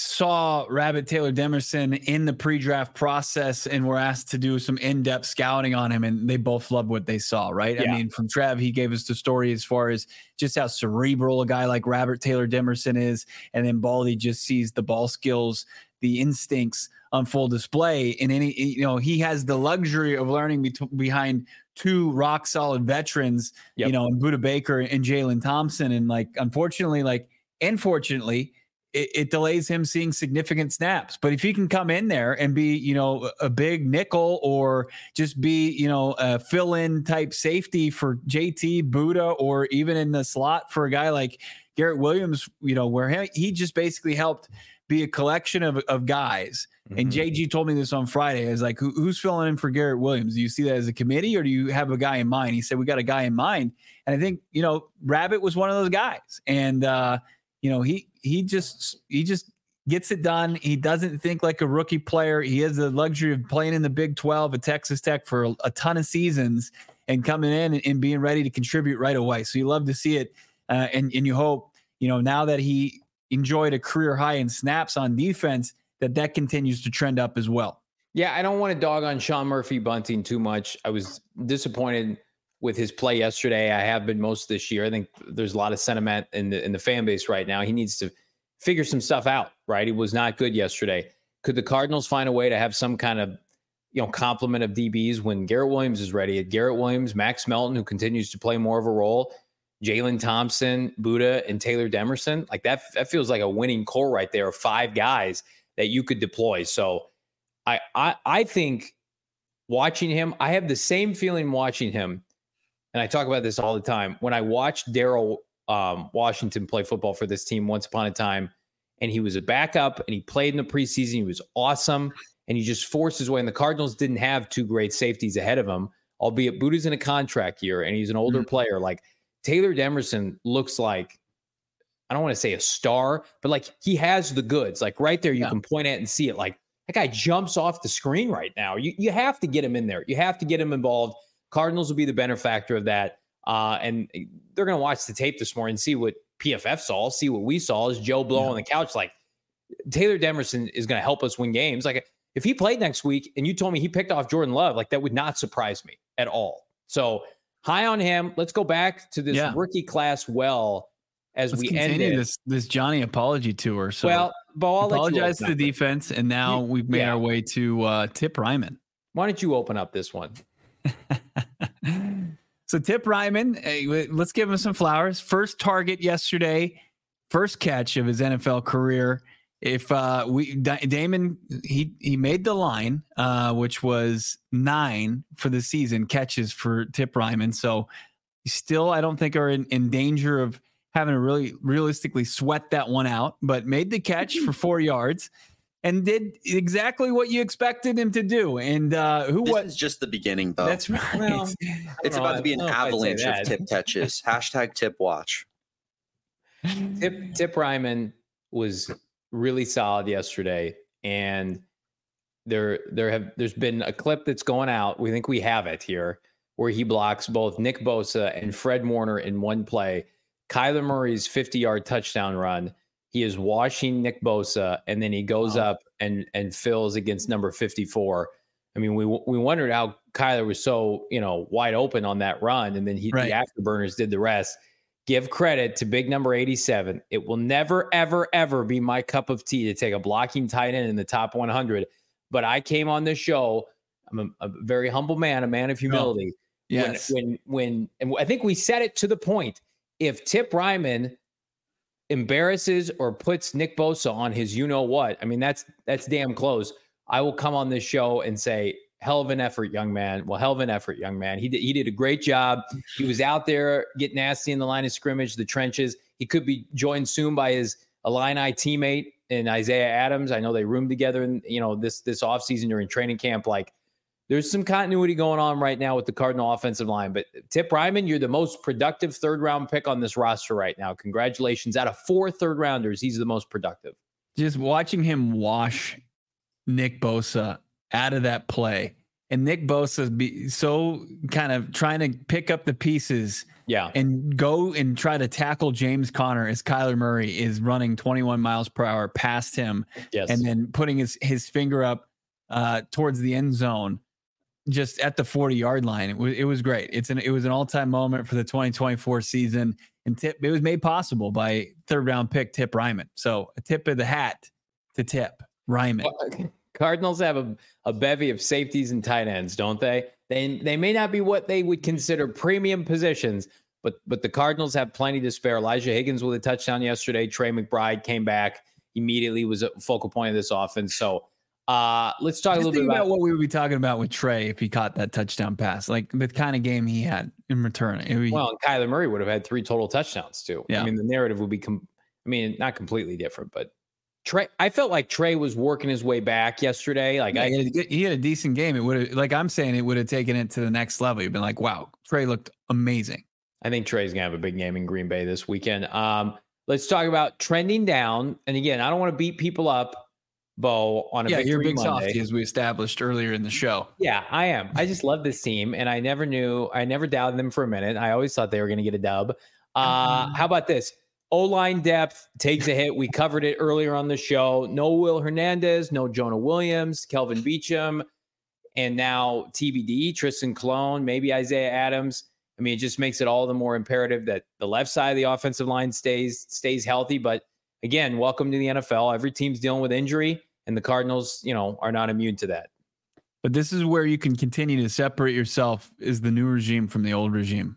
Speaker 2: saw Rabbit Taylor Demerson in the pre-draft process and were asked to do some in-depth scouting on him, and they both loved what they saw, right?
Speaker 1: Yeah.
Speaker 2: I mean, from Trev, he gave us the story as far as just how cerebral a guy like Rabbit Taylor Demerson is, and then Baldy just sees the ball skills, the instincts on full display. And any, you know, he has the luxury of learning be- behind two rock solid veterans,
Speaker 1: Yep.
Speaker 2: you know, in Budda Baker and Jalen Thompson. And like, unfortunately, like, unfortunately, it, it delays him seeing significant snaps. But if he can come in there and be, you know, a big nickel or just be, you know, a fill in type safety for J T, Budda, or even in the slot for a guy like Garrett Williams, you know, where he, he just basically helped be a collection of, of guys. Mm-hmm. And J G told me this on Friday. I was like, Who, who's filling in for Garrett Williams? Do you see that as a committee, or do you have a guy in mind? He said, we got a guy in mind. And I think, you know, Rabbit was one of those guys. And, uh, you know, he, he just, he just gets it done. He doesn't think like a rookie player. He has the luxury of playing in the Big twelve at Texas Tech for a, a ton of seasons and coming in and, and being ready to contribute right away. So you love to see it. Uh, and, and you hope, you know, now that he enjoyed a career high in snaps on defense, that that continues to trend up as well.
Speaker 1: Yeah, I don't want to dog on Sean Murphy Bunting too much. I was disappointed with his play yesterday. I have been most this year. I think there's a lot of sentiment in the in the fan base right now. He needs to figure some stuff out, right? He was not good yesterday. Could the Cardinals find a way to have some kind of, you know, complement of D Bs when Garrett Williams is ready? Garrett Williams, Max Melton, who continues to play more of a role, Jalen Thompson, Budda, and Taylor Demerson. Like that, that feels like a winning core right there of five guys that you could deploy. So I, I, I think watching him, I have the same feeling watching him. And I talk about this all the time. When I watched Daryl um, Washington play football for this team once upon a time, and he was a backup and he played in the preseason, he was awesome. And he just forced his way. And the Cardinals didn't have two great safeties ahead of him, albeit Budda's in a contract year and he's an older mm-hmm. player. Like Taylor Demerson looks like, I don't want to say a star, but like he has the goods. Like right there, you yeah. can point at and see it. Like that guy jumps off the screen right now. You you have to get him in there. You have to get him involved. Cardinals will be the benefactor of that. Uh, and they're going to watch the tape this morning and see what P F F saw, see what we saw as Joe Blow yeah. on the couch. Like Taylor Demerson is going to help us win games. Like if he played next week and you told me he picked off Jordan Love, like that would not surprise me at all. So high on him. Let's go back to this yeah. rookie class well as
Speaker 2: Let's
Speaker 1: we
Speaker 2: continue
Speaker 1: end
Speaker 2: this this Johnny apology tour. So
Speaker 1: well, Bo, I'll
Speaker 2: apologize
Speaker 1: let you
Speaker 2: to the defense, and now
Speaker 1: you,
Speaker 2: we've made
Speaker 1: yeah.
Speaker 2: our way to uh, Tip Ryman.
Speaker 1: Why don't you open up this one?
Speaker 2: So Tip Ryman, hey, let's give him some flowers. First target yesterday, first catch of his N F L career. If uh, we D- Damon, he he made the line, uh, which was nine for the season catches for Tip Ryman. So still, I don't think are in, in danger of having to really realistically sweat that one out, but made the catch for four yards and did exactly what you expected him to do. And uh, who
Speaker 4: this
Speaker 2: was
Speaker 4: is just the beginning, though.
Speaker 2: That's right.
Speaker 1: Well,
Speaker 4: it's
Speaker 1: know,
Speaker 4: about to be an avalanche of
Speaker 1: that.
Speaker 4: tip catches. Hashtag tip watch.
Speaker 1: Tip Tip Ryman was really solid yesterday, and there there have there's been a clip that's going out. We think we have it here, where he blocks both Nick Bosa and Fred Warner in one play. Kyler Murray's fifty-yard touchdown run. He is washing Nick Bosa, and then he goes wow. up and and fills against number fifty-four. I mean, we we wondered how Kyler was so, you know, wide open on that run, and then he right. the afterburners did the rest. Give credit to big number eighty-seven. It will never, ever, ever be my cup of tea to take a blocking tight end in the top one hundred. But I came on this show. I'm a, a very humble man, a man of humility.
Speaker 2: Oh, yes.
Speaker 1: When, when, when, and I think we said it to the point. If Tip Ryman embarrasses or puts Nick Bosa on his you-know-what, I mean, that's that's damn close. I will come on this show and say, hell of an effort, young man. Well, hell of an effort, young man. He did, he did a great job. He was out there getting nasty in the line of scrimmage, the trenches. He could be joined soon by his Illini teammate in Isaiah Adams. I know they roomed together in, you know, this, this offseason during training camp. Like, there's some continuity going on right now with the Cardinal offensive line. But Tip Ryman, you're the most productive third-round pick on this roster right now. Congratulations. Out of four third-rounders, he's the most productive.
Speaker 2: just watching him wash Nick Bosa out of that play, and Nick Bosa be so kind of trying to pick up the pieces,
Speaker 1: yeah,
Speaker 2: and go and try to tackle James Conner as Kyler Murray is running twenty-one miles per hour past him,
Speaker 1: yes,
Speaker 2: and then putting his his finger up uh, towards the end zone, just at the forty yard line. It was it was great. It's an it was an all time moment for the twenty twenty-four season, and tip it was made possible by third round pick Tip Ryman. So a tip of the hat to Tip Ryman.
Speaker 1: Cardinals have a, a bevy of safeties and tight ends, don't they? They they may not be what they would consider premium positions, but but the Cardinals have plenty to spare. Elijah Higgins with a touchdown yesterday. Trey McBride came back immediately, was a focal point of this offense. So uh, let's talk
Speaker 2: Just
Speaker 1: a little bit about,
Speaker 2: about what we would be talking about with Trey if he caught that touchdown pass, like the kind of game he had in return. It would,
Speaker 1: well, and Kyler Murray would have had three total touchdowns too.
Speaker 2: Yeah.
Speaker 1: I mean, the narrative would be, com- I mean, not completely different, but Trey, I felt like Trey was working his way back yesterday. Like
Speaker 2: yeah,
Speaker 1: I,
Speaker 2: he, had a, good- he had a decent game. It would have, like I'm saying, it would have taken it to the next level. You've been like, wow, Trey looked amazing.
Speaker 1: I think Trey's gonna have a big game in Green Bay this weekend. Um, let's talk about trending down. And again, I don't want to beat people up, Bo, on a
Speaker 2: yeah, you're a
Speaker 1: victory
Speaker 2: big
Speaker 1: Monday.
Speaker 2: softy, as we established earlier in the show.
Speaker 1: Yeah, I am. I just love this team, and I never knew, I never doubted them for a minute. I always thought they were going to get a dub. Uh,
Speaker 2: Mm-hmm.
Speaker 1: how about this? O-line depth takes a hit. We covered it earlier on the show. No Will Hernandez, no Jonah Williams, Kelvin Beachum, and now T B D, Tristan Colon, maybe Isaiah Adams. I mean, it just makes it all the more imperative that the left side of the offensive line stays stays healthy. But again, welcome to the N F L. Every team's dealing with injury, and the Cardinals, you know, are not immune to that.
Speaker 2: But this is where you can continue to separate yourself as the new regime from the old regime,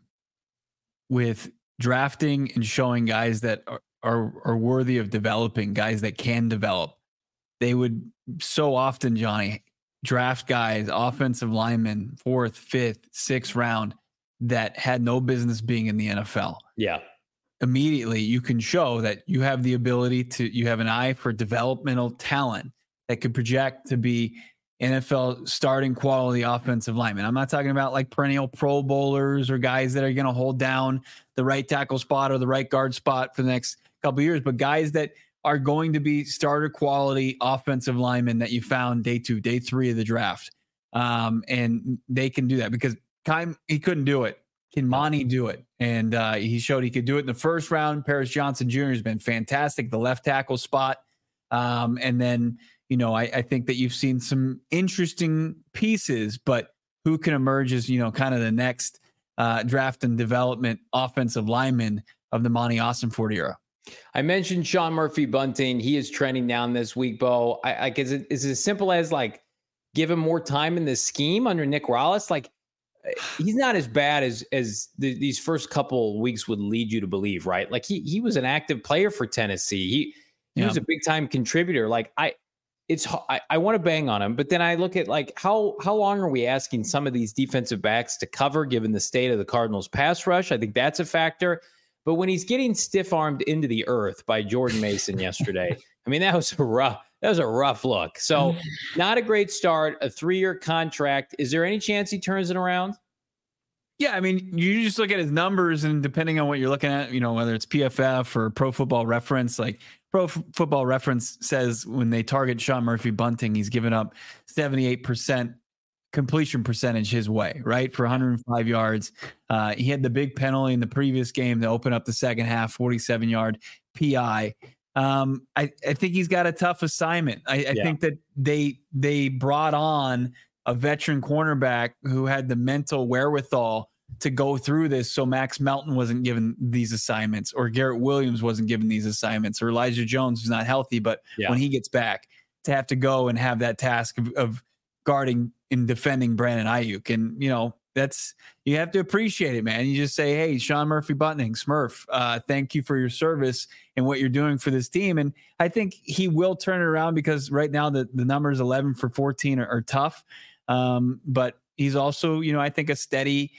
Speaker 2: with drafting and showing guys that are, are, are worthy of developing, guys that can develop. They would so often, Johnny, draft guys, offensive linemen, fourth, fifth, sixth round, that had no business being in the N F L.
Speaker 1: Yeah.
Speaker 2: Immediately, you can show that you have the ability to, you have an eye for developmental talent that could project to be N F L starting quality offensive linemen. I'm not talking about like perennial Pro Bowlers or guys that are going to hold down the right tackle spot or the right guard spot for the next couple of years, but guys that are going to be starter quality offensive linemen that you found day two, day three of the draft. Um, and they can do that because Kai, he couldn't do it. Can Monty do it? And uh, he showed he could do it in the first round. Paris Johnson Junior has been fantastic, the left tackle spot. Um, and then, you know, I, I think that you've seen some interesting pieces, but who can emerge as, you know, kind of the next uh, draft and development offensive lineman of the Monty Austin-Ford era?
Speaker 1: I mentioned Sean Murphy Bunting. He is trending down this week, Bo. I, I guess it is as simple as like give him more time in the scheme under Nick Rallis. Like he's not as bad as as the, these first couple weeks would lead you to believe, right? Like he he was an active player for Tennessee. He he
Speaker 2: Yeah.
Speaker 1: was a big time contributor. Like I. It's I, I want to bang on him, but then I look at like how how long are we asking some of these defensive backs to cover given the state of the Cardinals pass rush? I think that's a factor. But when he's getting stiff armed into the earth by Jordan Mason yesterday, I mean that was a rough that was a rough look. So not a great start. A three year contract. Is there any chance he turns it around?
Speaker 2: Yeah, I mean, you just look at his numbers, and depending on what you're looking at, you know, whether it's P F F or Pro Football Reference, like Pro F- Football Reference says when they target Sean Murphy Bunting, he's given up seventy-eight percent completion percentage his way, right? For one hundred five yards. Uh, he had the big penalty in the previous game to open up the second half, forty-seven yard P I. Um, I, I think he's got a tough assignment. I, I
Speaker 1: Yeah.
Speaker 2: think that they they brought on a veteran cornerback who had the mental wherewithal to go through this. So Max Melton wasn't given these assignments, or Garrett Williams wasn't given these assignments, or Elijah Jones, who's not healthy, but
Speaker 1: Yeah.
Speaker 2: when he gets back, to have to go and have that task of, of guarding and defending Brandon Ayuk. And, you know, that's, you have to appreciate it, man. You just say, hey, Sean Murphy Bunting, Smurf, uh, thank you for your service and what you're doing for this team. And I think he will turn it around, because right now the, the numbers eleven for fourteen are, are tough. Um, but he's also, you know, I think a steady,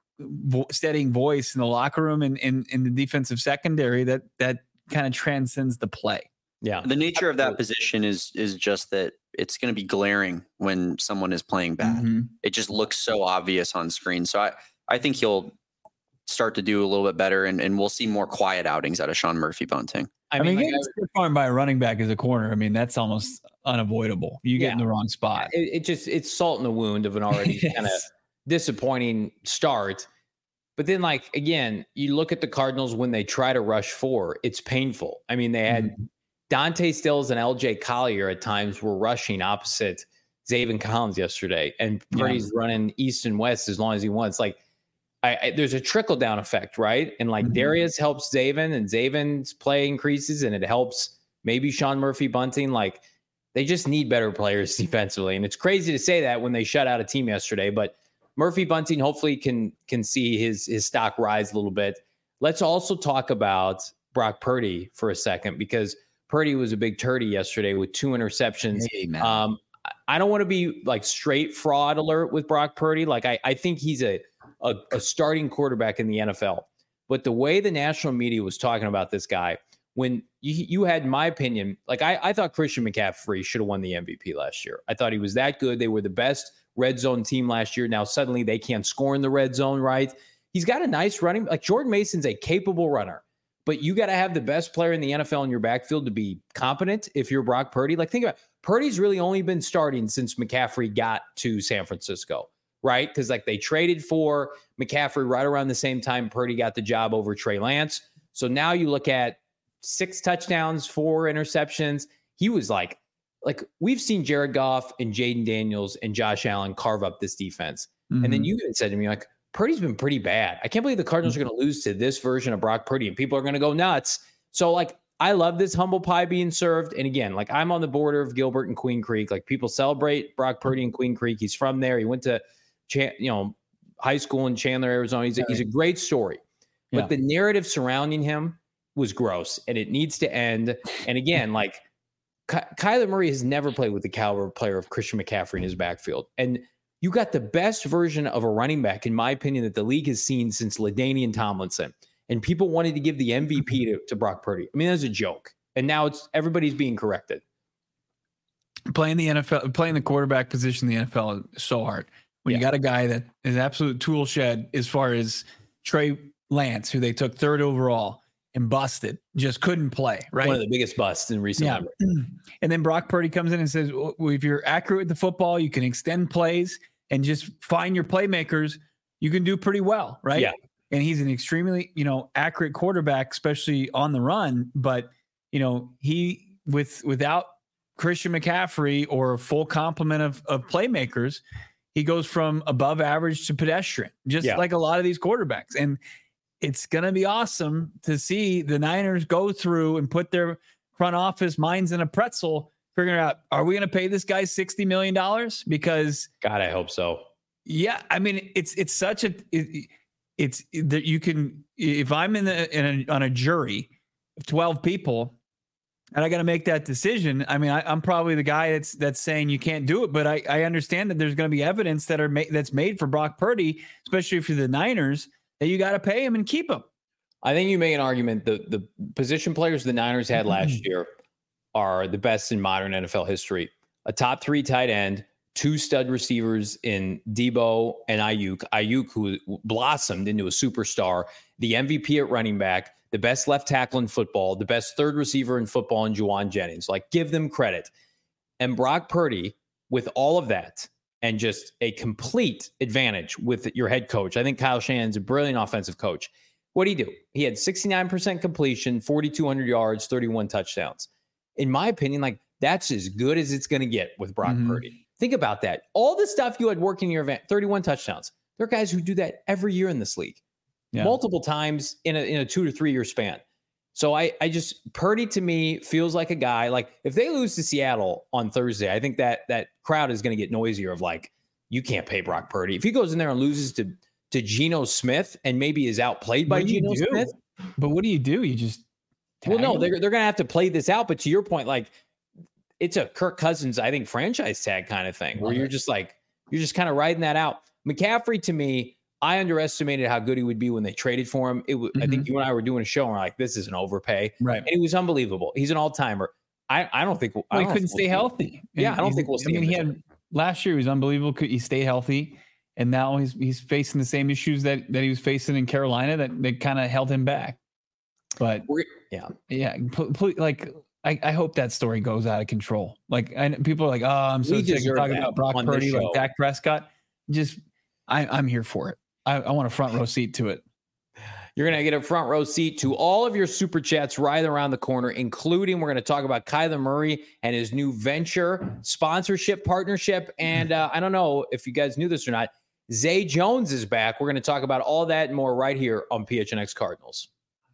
Speaker 2: vo- steadying voice in the locker room and in, in the defensive secondary that, that kind of transcends the play.
Speaker 1: Yeah.
Speaker 4: The nature of that position is is just that it's going to be glaring when someone is playing bad.
Speaker 2: Mm-hmm.
Speaker 4: It just looks so obvious on screen. So I, I think he'll start to do a little bit better, and, and we'll see more quiet outings out of Sean Murphy Bunting.
Speaker 2: I, I mean, mean getting stiff armed by a running back as a corner, I mean, that's almost unavoidable. You get yeah. in the wrong spot.
Speaker 1: It, it just it's salt in the wound of an already yes. kind of disappointing start. But then, like, again, you look at the Cardinals when they try to rush four, it's painful. I mean, they had mm-hmm. Dante Stills and L J Collier at times were rushing opposite Zaven Collins yesterday, and Purdy's yeah. running east and west as long as he wants. Like, I, I, there's a trickle down effect, right? And like mm-hmm. Darius helps Zaven, and Zaven's play increases, and it helps maybe Sean Murphy Bunting. Like, they just need better players defensively, and it's crazy to say that when they shut out a team yesterday, but Murphy Bunting hopefully can can see his his stock rise a little bit. Let's also talk about Brock Purdy for a second, because Purdy was a big turdy yesterday with two interceptions.
Speaker 2: Hey,
Speaker 1: um, I don't want to be like straight fraud alert with Brock Purdy. Like I, I think he's a, a a starting quarterback in the N F L. But the way the national media was talking about this guy, when you, you had my opinion, like I, I thought Christian McCaffrey should have won the M V P last year. I thought he was that good. They were the best red zone team last year. Now suddenly they can't score in the red zone, right? He's got a nice running, like Jordan Mason's a capable runner, but you got to have the best player in the N F L in your backfield to be competent if you're Brock Purdy. Like, think about it. Purdy's really only been starting since McCaffrey got to San Francisco, right? Because like they traded for McCaffrey right around the same time Purdy got the job over Trey Lance. So now you look at six touchdowns, four interceptions. He was like, Like we've seen Jared Goff and Jaden Daniels and Josh Allen carve up this defense. Mm-hmm. And then you even said to me, like, Purdy's been pretty bad. I can't believe the Cardinals mm-hmm. are going to lose to this version of Brock Purdy, and people are going to go nuts. So like, I love this humble pie being served. And again, like I'm on the border of Gilbert and Queen Creek. Like people celebrate Brock Purdy in Queen Creek. He's from there. He went to, you know, high school in Chandler, Arizona. He's a, he's a great story, but yeah. the narrative surrounding him was gross, and it needs to end. And again, like, Ky- Kyler Murray has never played with the caliber player of Christian McCaffrey in his backfield. And you got the best version of a running back, in my opinion, that the league has seen since LaDainian Tomlinson. And people wanted to give the M V P to, to Brock Purdy. I mean, that's a joke. And now it's everybody's being corrected.
Speaker 2: Playing the N F L, playing the quarterback position in the N F L is so hard. When yeah. you got a guy that is absolute tool shed as far as Trey Lance, who they took third overall, and busted, just couldn't play, right?
Speaker 1: One of the biggest busts in recent
Speaker 2: yeah. memory. And then Brock Purdy comes in and says, well, if you're accurate with the football, you can extend plays and just find your playmakers, you can do pretty well, right?
Speaker 1: Yeah.
Speaker 2: And he's an extremely, you know, accurate quarterback, especially on the run. But, you know, he, with without Christian McCaffrey or a full complement of, of playmakers, he goes from above average to pedestrian, just yeah. like a lot of these quarterbacks. And it's going to be awesome to see the Niners go through and put their front office minds in a pretzel, figuring out, are we going to pay this guy sixty million dollars? Because
Speaker 1: God, I hope so.
Speaker 2: Yeah. I mean, it's, it's such a, it, it's that you can, if I'm in, the, in a, on a jury of twelve people and I got to make that decision. I mean, I, I'm probably the guy that's, that's saying you can't do it, but I, I understand that there's going to be evidence that are made, that's made for Brock Purdy, especially for the Niners, that you got to pay him and keep him.
Speaker 1: I think you make an argument. The the position players the Niners had last year are the best in modern N F L history. A top three tight end, two stud receivers in Debo and Ayuk. Ayuk, who blossomed into a superstar, the M V P at running back, the best left tackle in football, the best third receiver in football in Juwan Jennings. Like, give them credit. And Brock Purdy, with all of that, and just a complete advantage with your head coach. I think Kyle Shanahan's a brilliant offensive coach. What did he do? He had sixty-nine percent completion, forty-two hundred yards, thirty-one touchdowns. In my opinion, like that's as good as it's going to get with Brock mm-hmm. Purdy. Think about that. All the stuff you had working in your event, thirty-one touchdowns. There are guys who do that every year in this league, yeah. multiple times in a, in a two to three year span. So I, I just, Purdy to me feels like a guy, like if they lose to Seattle on Thursday, I think that that crowd is going to get noisier of like, you can't pay Brock Purdy. If he goes in there and loses to, to Geno Smith and maybe is outplayed by Geno Smith.
Speaker 2: But what do you do? You just,
Speaker 1: well, no, they're, they're going to have to play this out. But to your point, like it's a Kirk Cousins, I think, franchise tag kind of thing where you're just like, you're just kind of riding that out. McCaffrey to me, I underestimated how good he would be when they traded for him. It w- mm-hmm. I think you and I were doing a show and we're like, this is an overpay.
Speaker 2: Right.
Speaker 1: And he was unbelievable. He's an all-timer. I, I don't think
Speaker 2: well,
Speaker 1: I
Speaker 2: he
Speaker 1: don't
Speaker 2: couldn't
Speaker 1: stay
Speaker 2: we'll healthy.
Speaker 1: Yeah, I don't think we'll see.
Speaker 2: I mean, he had last year he was unbelievable. He stayed healthy, and now he's he's facing the same issues that that he was facing in Carolina that that kind of held him back. But
Speaker 1: We're, yeah,
Speaker 2: yeah, pl- pl- like I, I hope that story goes out of control. Like, and people are like, "Oh, I'm so
Speaker 1: We
Speaker 2: sick of
Speaker 1: deserve
Speaker 2: talking
Speaker 1: that
Speaker 2: about Brock
Speaker 1: on this
Speaker 2: Purdy, like
Speaker 1: show.
Speaker 2: Dak Prescott." Just, I, I'm here for it. I, I want a front row seat to it.
Speaker 1: You're going to get a front row seat to all of your super chats right around the corner, including we're going to talk about Kyler Murray and his new venture sponsorship partnership. And uh, I don't know if you guys knew this or not, Zay Jones is back. We're going to talk about all that and more right here on P H N X Cardinals.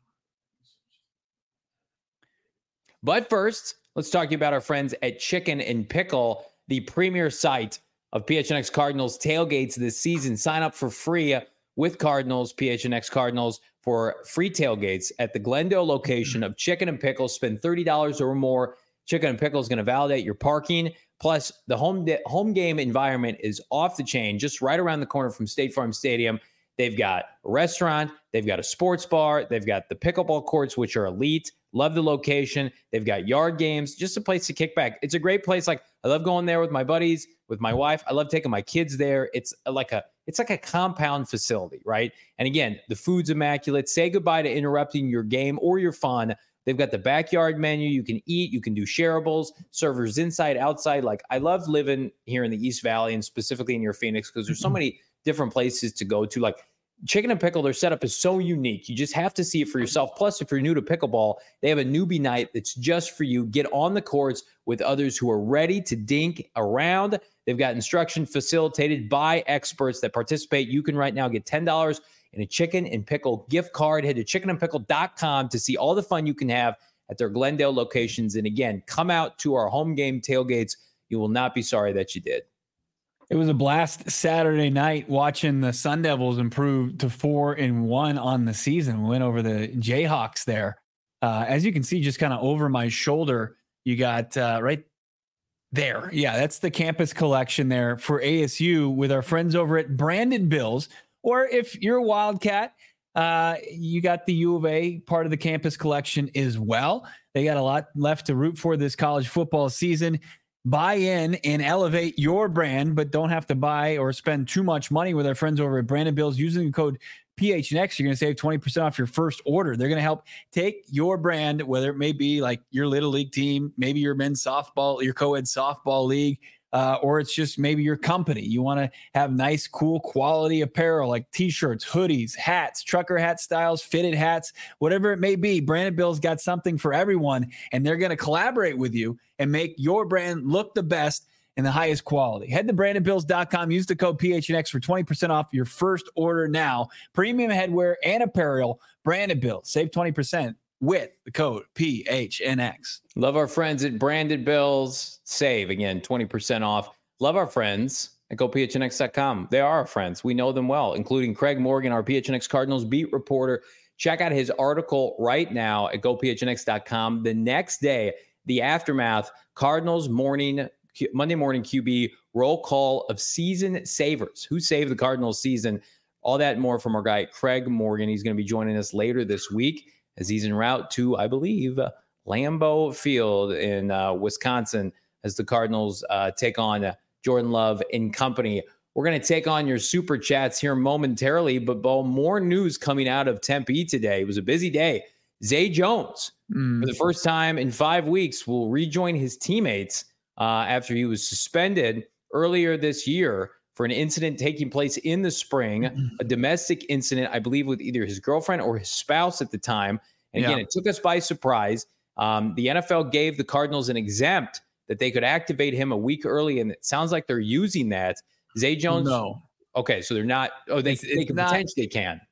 Speaker 1: But first, let's talk to you about our friends at Chicken and Pickle, the premier site of P H N X Cardinals tailgates this season. Sign up for free with Cardinals, P H N X Cardinals, for free tailgates at the Glendale location of Chicken and Pickle. Spend thirty dollars or more. Chicken and Pickle is going to validate your parking. Plus, the home de- home game environment is off the chain, just right around the corner from State Farm Stadium. They've got a restaurant. They've got a sports bar. They've got the pickleball courts, which are elite. Love the location. They've got yard games, just a place to kick back. It's a great place. Like, I love going there with my buddies, with my wife. I love taking my kids there. It's like a it's like a compound facility, right? And again, the food's immaculate. Say goodbye to interrupting your game or your fun. They've got the backyard menu. You can eat. You can do shareables. Servers inside, outside. Like, I love living here in the East Valley and specifically near Phoenix because there's so many different places to go to. Like, Chicken and Pickle, their setup is so unique. You just have to see it for yourself. Plus, if you're new to pickleball, they have a newbie night that's just for you. Get on the courts with others who are ready to dink around. They've got instruction facilitated by experts that participate. You can right now get ten dollars in a Chicken and Pickle gift card. Head to chicken and pickle dot com to see all the fun you can have at their Glendale locations. And again, come out to our home game tailgates. You will not be sorry that you did.
Speaker 2: It was a blast Saturday night watching the Sun Devils improve to four and one on the season. We went over the Jayhawks there. Uh, as you can see, just kind of over my shoulder, you got uh, right there. Yeah, that's the campus collection there for A S U with our friends over at Brandon Bills. Or if you're a Wildcat, uh, you got the U of A part of the campus collection as well. They got a lot left to root for this college football season. Buy in and elevate your brand, but don't have to buy or spend too much money with our friends over at Brandon Bills. Using the code P H N X, you're going to save twenty percent off your first order. They're going to help take your brand, whether it may be like your little league team, maybe your men's softball, your co-ed softball league, uh, or it's just maybe your company. You want to have nice, cool quality apparel like t-shirts, hoodies, hats, trucker hat styles, fitted hats, whatever it may be. Brandon Bills got something for everyone, and they're going to collaborate with you and make your brand look the best and the highest quality. Head to brandon bills dot com. Use the code P H N X for twenty percent off your first order now. Premium headwear and apparel, Brandon Bills. Save twenty percent with the code P H N X.
Speaker 1: Love our friends at Brandon Bills. Save, again, twenty percent off. Love our friends at go P H N X dot com. They are our friends. We know them well, including Craig Morgan, our P H N X Cardinals beat reporter. Check out his article right now at go P H N X dot com. The next day, the aftermath, Cardinals morning, Monday morning Q B roll call of season savers. Who saved the Cardinals season? All that and more from our guy, Craig Morgan. He's going to be joining us later this week as he's en route to, I believe, Lambeau Field in uh, Wisconsin as the Cardinals uh, take on uh, Jordan Love and company. We're going to take on your super chats here momentarily, but Bo, more news coming out of Tempe today. It was a busy day. Zay Jones, mm. for the first time in five weeks, will rejoin his teammates uh, after he was suspended earlier this year for an incident taking place in the spring, mm-hmm. a domestic incident, I believe, with either his girlfriend or his spouse at the time. And again, yeah. it took us by surprise. Um, the N F L gave the Cardinals an exempt that they could activate him a week early, and it sounds like they're using that. Zay Jones?
Speaker 2: No.
Speaker 1: Okay, so they're not. Oh, they,
Speaker 2: it's,
Speaker 1: they
Speaker 2: it's
Speaker 1: can
Speaker 2: not,
Speaker 1: potentially can.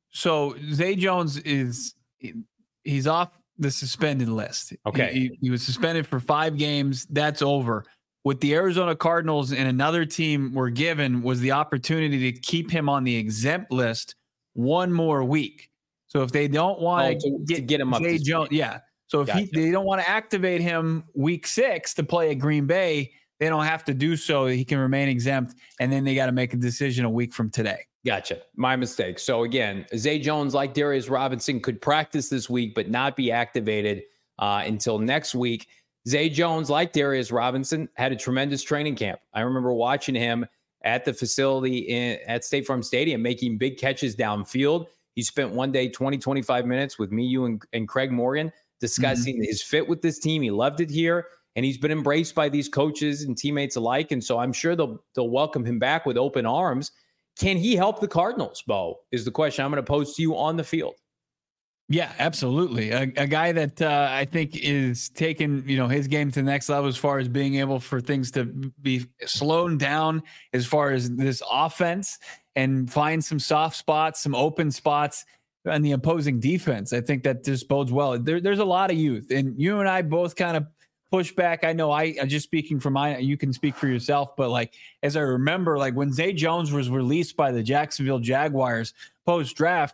Speaker 2: So Zay Jones is he's off the suspended list.
Speaker 1: Okay,
Speaker 2: he, he, he was suspended for five games. That's over. What the Arizona Cardinals and another team were given was the opportunity to keep him on the exempt list one more week. So if they don't want
Speaker 1: oh, to,
Speaker 2: get,
Speaker 1: to get him up,
Speaker 2: Zay Jones, yeah. So if gotcha. he, they don't want to activate him week six to play at Green Bay, they don't have to do so. He can remain exempt, and then they got to make a decision a week from today.
Speaker 1: Gotcha. My mistake. So again, Zay Jones, like Darius Robinson, could practice this week but not be activated uh, until next week. Zay Jones, like Darius Robinson, had a tremendous training camp. I remember watching him at the facility in, at State Farm Stadium making big catches downfield. He spent one day, twenty, twenty-five minutes with me, you, and, and Craig Morgan discussing mm-hmm. his fit with this team. He loved it here, and he's been embraced by these coaches and teammates alike. And so I'm sure they'll they'll welcome him back with open arms. Can he help the Cardinals, Bo, is the question I'm going to pose to you on the field.
Speaker 2: Yeah, absolutely. A, a guy that uh, I think is taking, you know, his game to the next level as far as being able for things to be slowed down as far as this offense and find some soft spots, some open spots on the opposing defense. I think that just bodes well. There, there's a lot of youth, and you and I both kind of push back. I know I, I'm just speaking for my, you can speak for yourself, but like, as I remember, like when Zay Jones was released by the Jacksonville Jaguars post draft,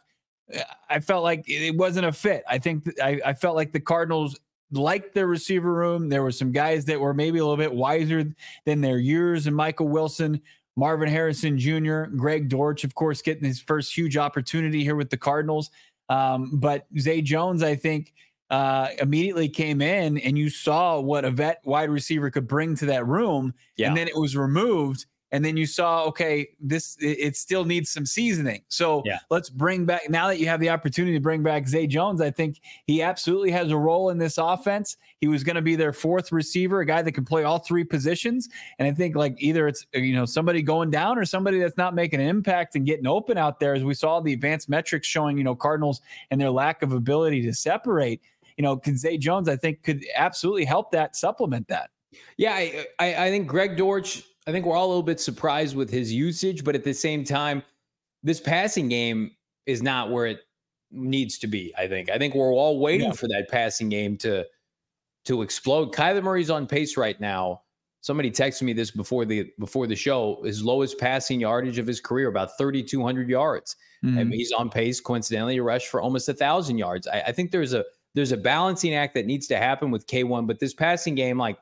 Speaker 2: I felt like it wasn't a fit. I think th- I, I felt like the Cardinals liked their receiver room. There were some guys that were maybe a little bit wiser than their years, and Michael Wilson, Marvin Harrison Junior, Greg Dortch, of course, getting his first huge opportunity here with the Cardinals. Um, but Zay Jones, I think, uh, immediately came in, and you saw what a vet wide receiver could bring to that room. Yeah. And then it was removed. And then you saw, okay, this, it, it still needs some seasoning. So yeah. let's bring back, now that you have the opportunity to bring back Zay Jones, I think he absolutely has a role in this offense. He was going to be their fourth receiver, a guy that can play all three positions. And I think like either it's, you know, somebody going down or somebody that's not making an impact and getting open out there, as we saw the advanced metrics showing, you know, Cardinals and their lack of ability to separate, you know, Zay Jones, I think could absolutely help that, supplement that.
Speaker 1: Yeah. I, I, I think Greg Dortch, I think we're all a little bit surprised with his usage, but at the same time, this passing game is not where it needs to be. I think. I think we're all waiting yeah. for that passing game to to explode. Kyler Murray's on pace right now. Somebody texted me this before the before the show. His lowest passing yardage of his career, about thirty-two hundred yards. Mm-hmm. And he's on pace, coincidentally, to rush for almost a thousand yards. I, I think there's a there's a balancing act that needs to happen with K one, but this passing game, like.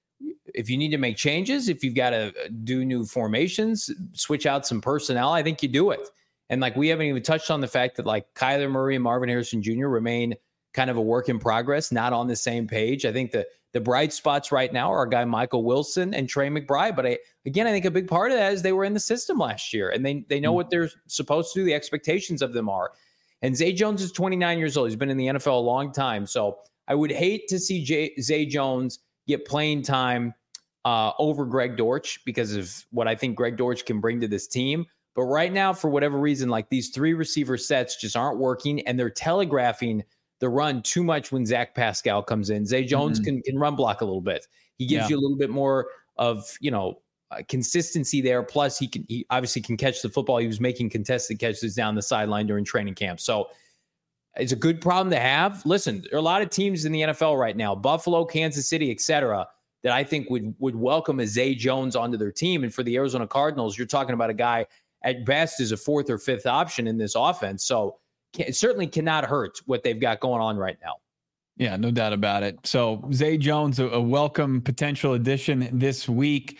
Speaker 1: If you need to make changes, if you've got to do new formations, switch out some personnel, I think you do it. And like, we haven't even touched on the fact that like Kyler Murray and Marvin Harrison Junior remain kind of a work in progress, not on the same page. I think the, the bright spots right now are a guy, Michael Wilson and Trey McBride. But I, again, I think a big part of that is they were in the system last year and they, they know mm-hmm. what they're supposed to do. The expectations of them are, and Zay Jones is twenty-nine years old. He's been in the N F L a long time. So I would hate to see Jay, Zay Jones get playing time uh, over Greg Dortch because of what I think Greg Dortch can bring to this team. But right now, for whatever reason, like these three receiver sets just aren't working, and they're telegraphing the run too much when Zach Pascal comes in. Zay Jones mm-hmm. can, can run block a little bit. He gives yeah. you a little bit more of, you know, uh, consistency there. Plus, he can he obviously can catch the football. He was making contested catches down the sideline during training camp. So it's a good problem to have. Listen, there are a lot of teams in the N F L right now, Buffalo, Kansas City, et cetera, that I think would would welcome a Zay Jones onto their team. And for the Arizona Cardinals, you're talking about a guy at best is a fourth or fifth option in this offense. So can, it certainly cannot hurt what they've got going on right now.
Speaker 2: Yeah, no doubt about it. So Zay Jones, a, a welcome potential addition this week.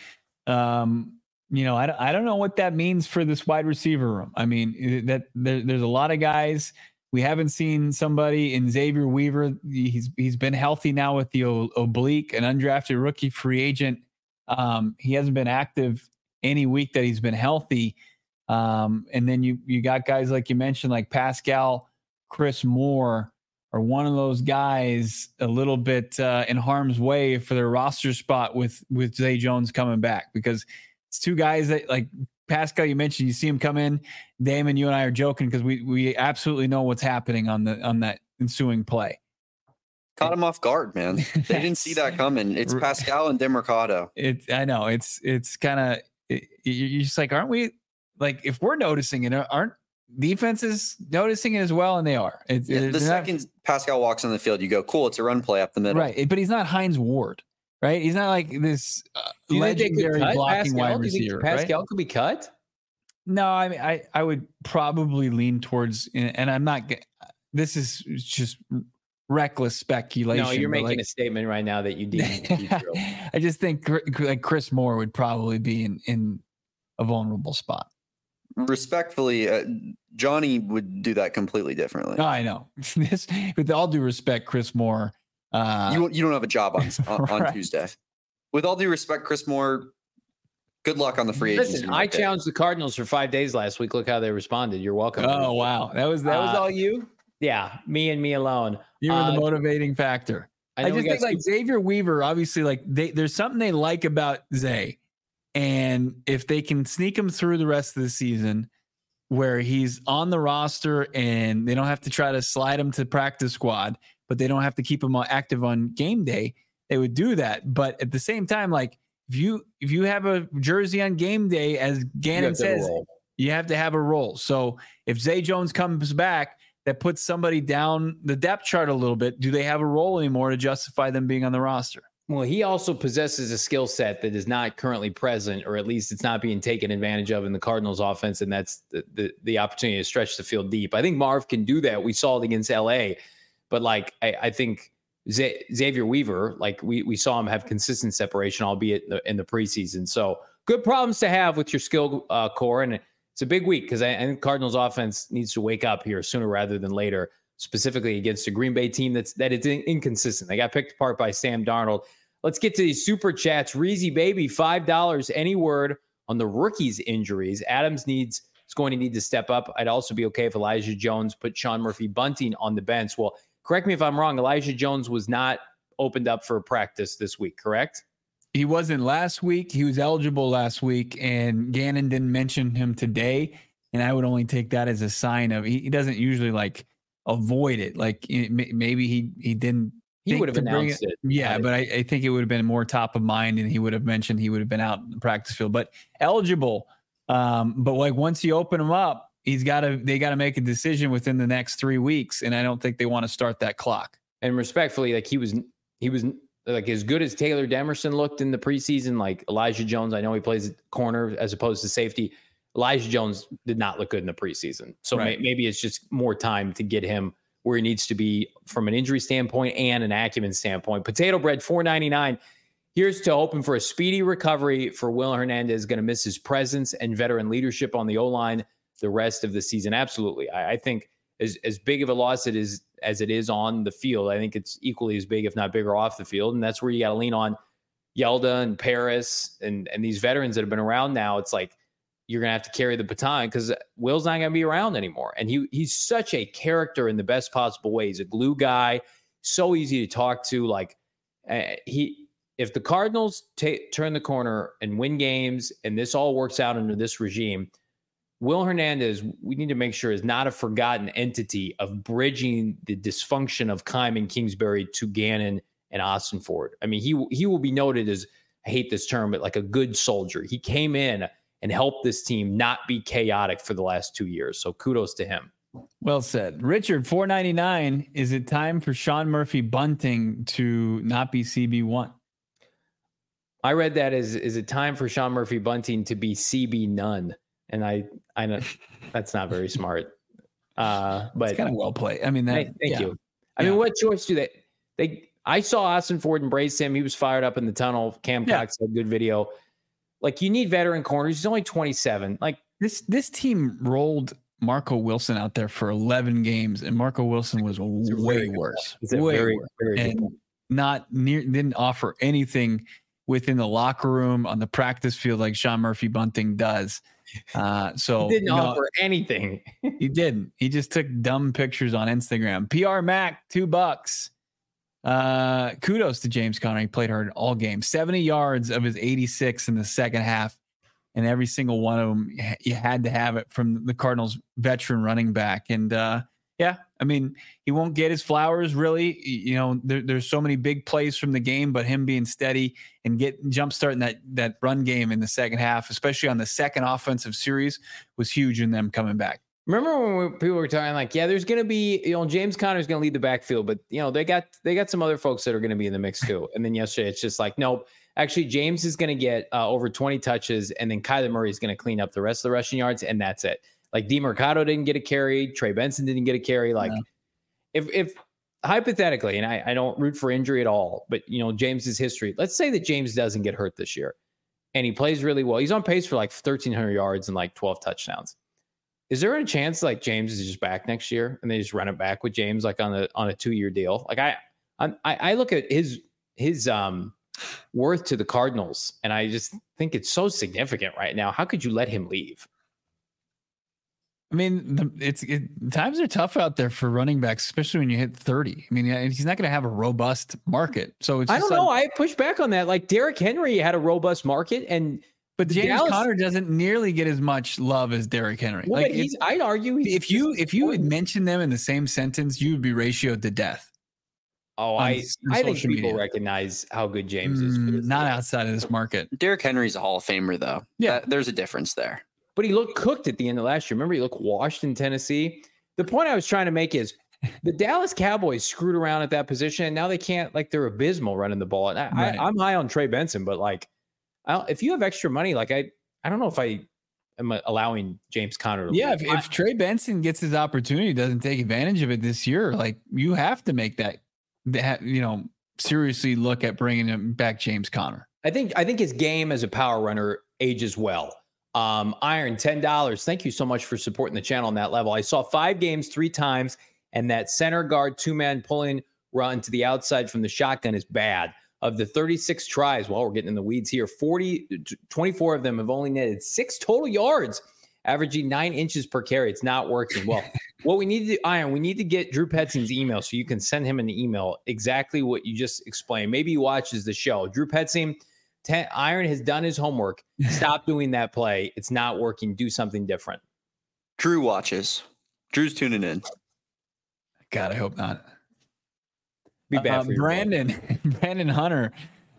Speaker 2: Um, you know, I, I don't know what that means for this wide receiver room. I mean, that there, there's a lot of guys. We haven't seen somebody in Xavier Weaver. He's he's been healthy now with the o- oblique, an undrafted rookie free agent. Um, he hasn't been active any week that he's been healthy. Um, and then you you got guys like you mentioned, like Pascal, Chris Moore, are one of those guys a little bit uh, in harm's way for their roster spot with with Zay Jones coming back, because it's two guys that like. Pascal, you mentioned you see him come in. Damon, you and I are joking because we we absolutely know what's happening on the on that ensuing play.
Speaker 4: Caught him off guard, man. They didn't see that coming. It's Pascal and Demercado.
Speaker 2: It's I know it's it's kind of it, you're just like, aren't we? Like, if we're noticing it, aren't defenses noticing it as well? And they are. It's,
Speaker 4: yeah, the second not, Pascal walks on the field, you go, cool. It's a run play up the middle,
Speaker 2: right? But he's not Hines Ward. Right, he's not like this uh, legendary blocking
Speaker 1: Pascal?
Speaker 2: wide receiver.
Speaker 1: Pascal
Speaker 2: right?
Speaker 1: could be cut.
Speaker 2: No, I mean, I, I would probably lean towards, and I'm not. This is just reckless speculation.
Speaker 1: No, you're making
Speaker 2: like,
Speaker 1: a statement right now that you deem.
Speaker 2: I just think like Chris Moore would probably be in in a vulnerable spot.
Speaker 4: Respectfully, uh, Johnny would do that completely differently.
Speaker 2: No, I know. This, with all due respect, Chris Moore. Uh,
Speaker 4: you you don't have a job on on, on
Speaker 2: right.
Speaker 4: Tuesday. With all due respect, Chris Moore Good luck on the free agency.
Speaker 1: Listen, I challenged the Cardinals for five days last week. Look how they responded. You're welcome.
Speaker 2: Oh, wow. That was that was
Speaker 1: Uh,
Speaker 2: all you?
Speaker 1: Yeah, me and me alone.
Speaker 2: You were
Speaker 1: Uh,
Speaker 2: the motivating factor.
Speaker 1: I,
Speaker 2: I,
Speaker 1: know we
Speaker 2: just
Speaker 1: got
Speaker 2: think like
Speaker 1: Scoop-
Speaker 2: Xavier Weaver, obviously, like they, there's something they like about Zay. And if they can sneak him through the rest of the season where he's on the roster and they don't have to try to slide him to practice squad, but they don't have to keep him active on game day, they would do that. But at the same time, like if you if you have a jersey on game day, as Gannon says, you have to have a role. So if Zay Jones comes back, that puts somebody down the depth chart a little bit. Do they have a role anymore to justify them being on the roster?
Speaker 1: Well, he also possesses a skill set that is not currently present, or at least it's not being taken advantage of in the Cardinals offense, and that's the the, the opportunity to stretch the field deep. I think Marv can do that. We saw it against L A, but like I, I think Z- Xavier Weaver, like we we saw him have consistent separation, albeit in the, in the preseason. So good problems to have with your skill uh, core, and it's a big week because I, I think Cardinals offense needs to wake up here sooner rather than later, specifically against a Green Bay team that's that is in, inconsistent. They got picked apart by Sam Darnold. Let's get to these super chats. Reezy Baby, five dollars. Any word on the rookies' injuries? Adams needs is going to need to step up. I'd also be okay if Elijah Jones put Sean Murphy Bunting on the bench. Well, correct me if I'm wrong. Elijah Jones was not opened up for practice this week, correct?
Speaker 2: He wasn't last week. He was eligible last week, and Gannon didn't mention him today. And I would only take that as a sign of he, he doesn't usually like avoid it. Like it, maybe he he didn't.
Speaker 1: He would have announced it.
Speaker 2: it. Yeah, but I, I think it would have been more top of mind, and he would have mentioned he would have been out in the practice field. But eligible, um, but like once you open him up, he's got to they got to make a decision within the next three weeks, and I don't think they want to start that clock.
Speaker 1: And respectfully, like he was he was like as good as Taylor Demerson looked in the preseason. Like Elijah Jones, I know he plays corner as opposed to safety. Elijah Jones did not look good in the preseason, so right. may, maybe it's just more time to get him where he needs to be from an injury standpoint and an acumen standpoint. Potato Bread, four ninety-nine. Here's to hoping for a speedy recovery for Will Hernandez. Going to miss his presence and veteran leadership on the O-line the rest of the season. Absolutely. I, I think as, as big of a loss it is as it is on the field, I think it's equally as big, if not bigger, off the field. And that's where you got to lean on Yelda and Paris and, and these veterans that have been around now. It's like, you're going to have to carry the baton because Will's not going to be around anymore. And he he's such a character in the best possible way. He's a glue guy, so easy to talk to. Like uh, he, if the Cardinals t- turn the corner and win games and this all works out under this regime, Will Hernandez, we need to make sure is not a forgotten entity of bridging the dysfunction of Keim and Kingsbury to Gannon and Austin Ford. I mean, he, he will be noted as, I hate this term, but like a good soldier. He came in and help this team not be chaotic for the last two years. So kudos to him.
Speaker 2: Well said. Richard, four ninety-nine. Is it time for Sean Murphy Bunting to not be C B one?
Speaker 1: I read that as, is it time for Sean Murphy Bunting to be C B none? And I, I know that's not very smart. Uh, but
Speaker 2: it's kind of well played. I mean, that,
Speaker 1: hey, thank
Speaker 2: yeah.
Speaker 1: you. I
Speaker 2: yeah.
Speaker 1: mean, what choice do they, they, I saw Austin Ford embrace him. He was fired up in the tunnel. Cam
Speaker 2: yeah.
Speaker 1: Cox had good video. Like, you need veteran corners. He's only twenty-seven. Like
Speaker 2: this, this team rolled Marco Wilson out there for eleven games, and Marco Wilson was way worse. Way
Speaker 1: very,
Speaker 2: worse.
Speaker 1: very
Speaker 2: and not near, didn't offer anything within the locker room on the practice field like Sean Murphy Bunting does. Uh, so
Speaker 1: he didn't
Speaker 2: you know,
Speaker 1: offer anything.
Speaker 2: He didn't. He just took dumb pictures on Instagram. P R Mac, two bucks. Uh, kudos to James Conner. He played hard all game. seventy yards of his eighty-six in the second half, and every single one of them, you had to have it from the Cardinals' veteran running back. And uh, yeah, I mean, he won't get his flowers really. You know, there, there's so many big plays from the game, but him being steady and get jump starting that that run game in the second half, especially on the second offensive series, was huge in them coming back.
Speaker 1: Remember when we, people were talking like, yeah, there's going to be, you know, James Conner's going to lead the backfield, but you know, they got, they got some other folks that are going to be in the mix too. And then yesterday it's just like, nope, actually James is going to get uh, over twenty touches. And then Kyler Murray is going to clean up the rest of the rushing yards. And that's it. Like DeMercado didn't get a carry. Trey Benson didn't get a carry. Like yeah. if, if hypothetically, and I, I don't root for injury at all, but you know, James's history, let's say that James doesn't get hurt this year and he plays really well. He's on pace for like thirteen hundred yards and like twelve touchdowns. Is there a chance like James is just back next year and they just run it back with James like on a on a two year deal? Like I I I look at his his um worth to the Cardinals. And I just think it's so significant right now. How could you let him leave?
Speaker 2: I mean, the, it's it, times are tough out there for running backs, especially when you hit thirty. I mean, he's not going to have a robust market. So it's
Speaker 1: I
Speaker 2: just
Speaker 1: don't
Speaker 2: like,
Speaker 1: know. I push back on that. Like Derrick Henry had a robust market, and
Speaker 2: but James
Speaker 1: Dallas,
Speaker 2: Conner doesn't nearly get as much love as Derrick Henry.
Speaker 1: Well,
Speaker 2: like
Speaker 1: he's, I'd argue he's
Speaker 2: if you if you would mention them in the same sentence, you would be ratioed to death.
Speaker 1: Oh,
Speaker 2: on,
Speaker 1: I
Speaker 2: on
Speaker 1: I think people
Speaker 2: media.
Speaker 1: recognize how good James is. For
Speaker 2: Mm,
Speaker 1: this
Speaker 2: not
Speaker 1: league.
Speaker 2: outside of this market.
Speaker 4: Derrick Henry's a Hall of Famer, though.
Speaker 2: Yeah.
Speaker 4: That- there's a difference there.
Speaker 1: But he looked cooked at the end of last year. Remember, he looked washed in Tennessee. The point I was trying to make is the Dallas Cowboys screwed around at that position, and now they can't. Like they're abysmal running the ball. And I,
Speaker 2: Right.
Speaker 1: I, I'm high on Trey Benson, but like, I don't, if you have extra money, like I, I don't know if I am allowing James Conner. To
Speaker 2: Yeah,
Speaker 1: leave.
Speaker 2: if, if Trey Benson gets his opportunity, doesn't take advantage of it this year, like you have to make that, that you know, seriously look at bringing him back, James Conner.
Speaker 1: I think I think his game as a power runner ages well. Um, Iron, ten dollars. Thank you so much for supporting the channel on that level. I saw five games three times, and that center guard two-man pulling run to the outside from the shotgun is bad. Of the thirty-six tries, well, we're getting in the weeds here, forty, twenty-four of them have only netted six total yards, averaging nine inches per carry. It's not working. Well, what we need to do, Iron, we need to get Drew Petzing's email so you can send him an email exactly what you just explained. Maybe he watches the show. Drew Petzing, ten, Iron has done his homework. Stop doing that play. It's not working. Do something different.
Speaker 4: Drew watches. Drew's tuning in.
Speaker 2: God, I hope not.
Speaker 1: Be bad
Speaker 2: Uh,
Speaker 1: for your
Speaker 2: Brandon, Brandon Hunter,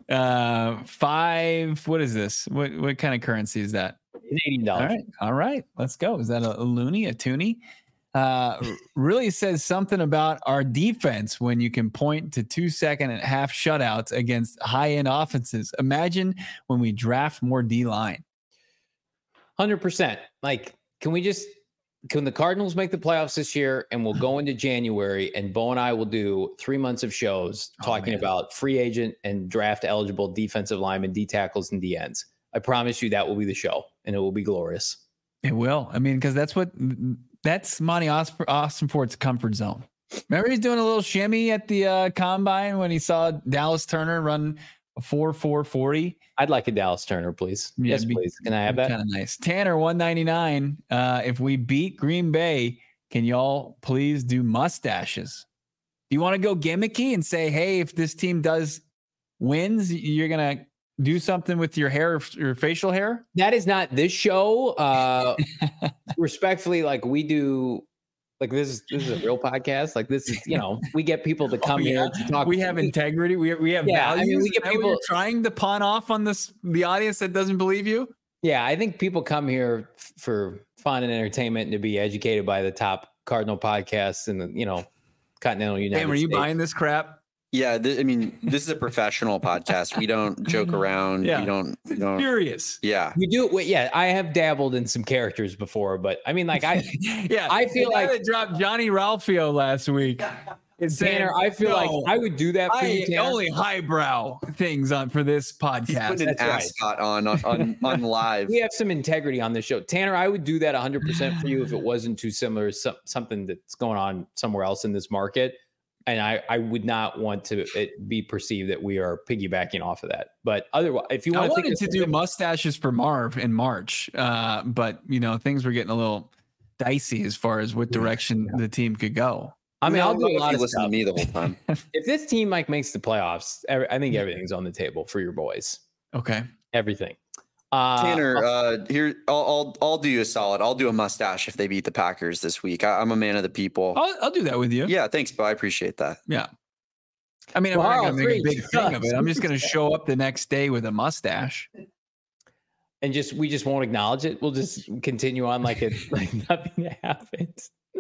Speaker 2: uh, five. What is this? What what kind of currency is that?
Speaker 1: Canadian
Speaker 2: All
Speaker 1: dollars.
Speaker 2: right, all right. Let's go. Is that a, a loony, a toonie? Uh, really says something about our defense when you can point to two second and half shutouts against high end offenses. Imagine when we draft more D line.
Speaker 1: one hundred percent. Like, can we just, can the Cardinals make the playoffs this year and we'll go into January and Bo and I will do three months of shows
Speaker 2: Oh,
Speaker 1: talking
Speaker 2: man.
Speaker 1: about free agent and draft eligible defensive linemen, D tackles, and D ends. I promise you that will be the show and it will be glorious.
Speaker 2: It will. I mean, because that's what that's Monty Austin, Austin Ford's comfort zone. Remember, he's doing a little shimmy at the uh, combine when he saw Dallas Turner run a four four forty.
Speaker 1: I'd like a Dallas Turner, please.
Speaker 2: Yeah,
Speaker 1: yes,
Speaker 2: be-
Speaker 1: please. Can I have that?
Speaker 2: Kind of nice. Tanner one ninety-nine. Uh, if we beat Green Bay, can y'all please do mustaches? Do you want to go gimmicky and say, hey, if this team does wins, you're gonna do something with your hair, your facial hair?
Speaker 1: That is not this show. Uh, respectfully, like we do, like this is this is a real podcast. Like this is, you know, we get people to come
Speaker 2: Oh, yeah.
Speaker 1: here to talk.
Speaker 2: We have integrity. We we have
Speaker 1: Yeah, I
Speaker 2: values.
Speaker 1: mean, we
Speaker 2: Is
Speaker 1: get
Speaker 2: that what
Speaker 1: people-
Speaker 2: you're trying to pawn off on this the audience that doesn't believe you.
Speaker 1: Yeah, I think people come here f- for fun and entertainment and to be educated by the top Cardinal podcasts in the, you know, continental United
Speaker 2: Hey, are you
Speaker 1: States.
Speaker 2: buying this crap?
Speaker 4: Yeah, th- I mean, this is a professional podcast. We don't joke around.
Speaker 2: Yeah.
Speaker 4: We don't. We don't.
Speaker 2: Furious.
Speaker 4: Yeah.
Speaker 1: We do. Wait, yeah, I have dabbled in some characters before, but I mean, like I,
Speaker 2: yeah,
Speaker 1: I feel
Speaker 2: the guy
Speaker 1: like-
Speaker 2: that dropped Johnny Ralphio last week. Is
Speaker 1: Tanner, I feel like I would do that for you,
Speaker 2: I
Speaker 1: Tanner.
Speaker 2: only highbrow things on for this
Speaker 4: He's
Speaker 2: podcast.
Speaker 4: putting an
Speaker 1: That's right.
Speaker 4: ascot on on on, on live.
Speaker 1: We have some integrity on this show. Tanner, I would do that one hundred percent for you if it wasn't too similar to some, something that's going on somewhere else in this market. And I, I would not want to it be perceived that we are piggybacking off of that. But otherwise, if you
Speaker 2: I
Speaker 1: want
Speaker 2: wanted
Speaker 1: to
Speaker 2: to do mustaches for Marv in March, uh, but you know things were getting a little dicey as far as what direction the team could go.
Speaker 1: I mean,
Speaker 4: No,
Speaker 1: I'll do a
Speaker 4: if
Speaker 1: lot
Speaker 4: you
Speaker 1: of
Speaker 4: listen
Speaker 1: stuff.
Speaker 4: to me the whole time.
Speaker 1: If this team like makes the playoffs, every, I think everything's on the table for your boys.
Speaker 2: Okay.
Speaker 1: Everything. Uh,
Speaker 4: Tanner, uh, here I'll, I'll I'll do you a solid. I'll do a mustache if they beat the Packers this week. I, I'm a man of the people.
Speaker 2: I'll, I'll do that with you.
Speaker 4: Yeah, thanks, Bo. I appreciate that.
Speaker 2: Yeah. I mean, I'm
Speaker 1: Well,
Speaker 2: not going to make a
Speaker 1: three.
Speaker 2: big thing of it. I'm just going to show up the next day with a mustache.
Speaker 1: and just we just won't acknowledge it. We'll just continue on like it like nothing happened.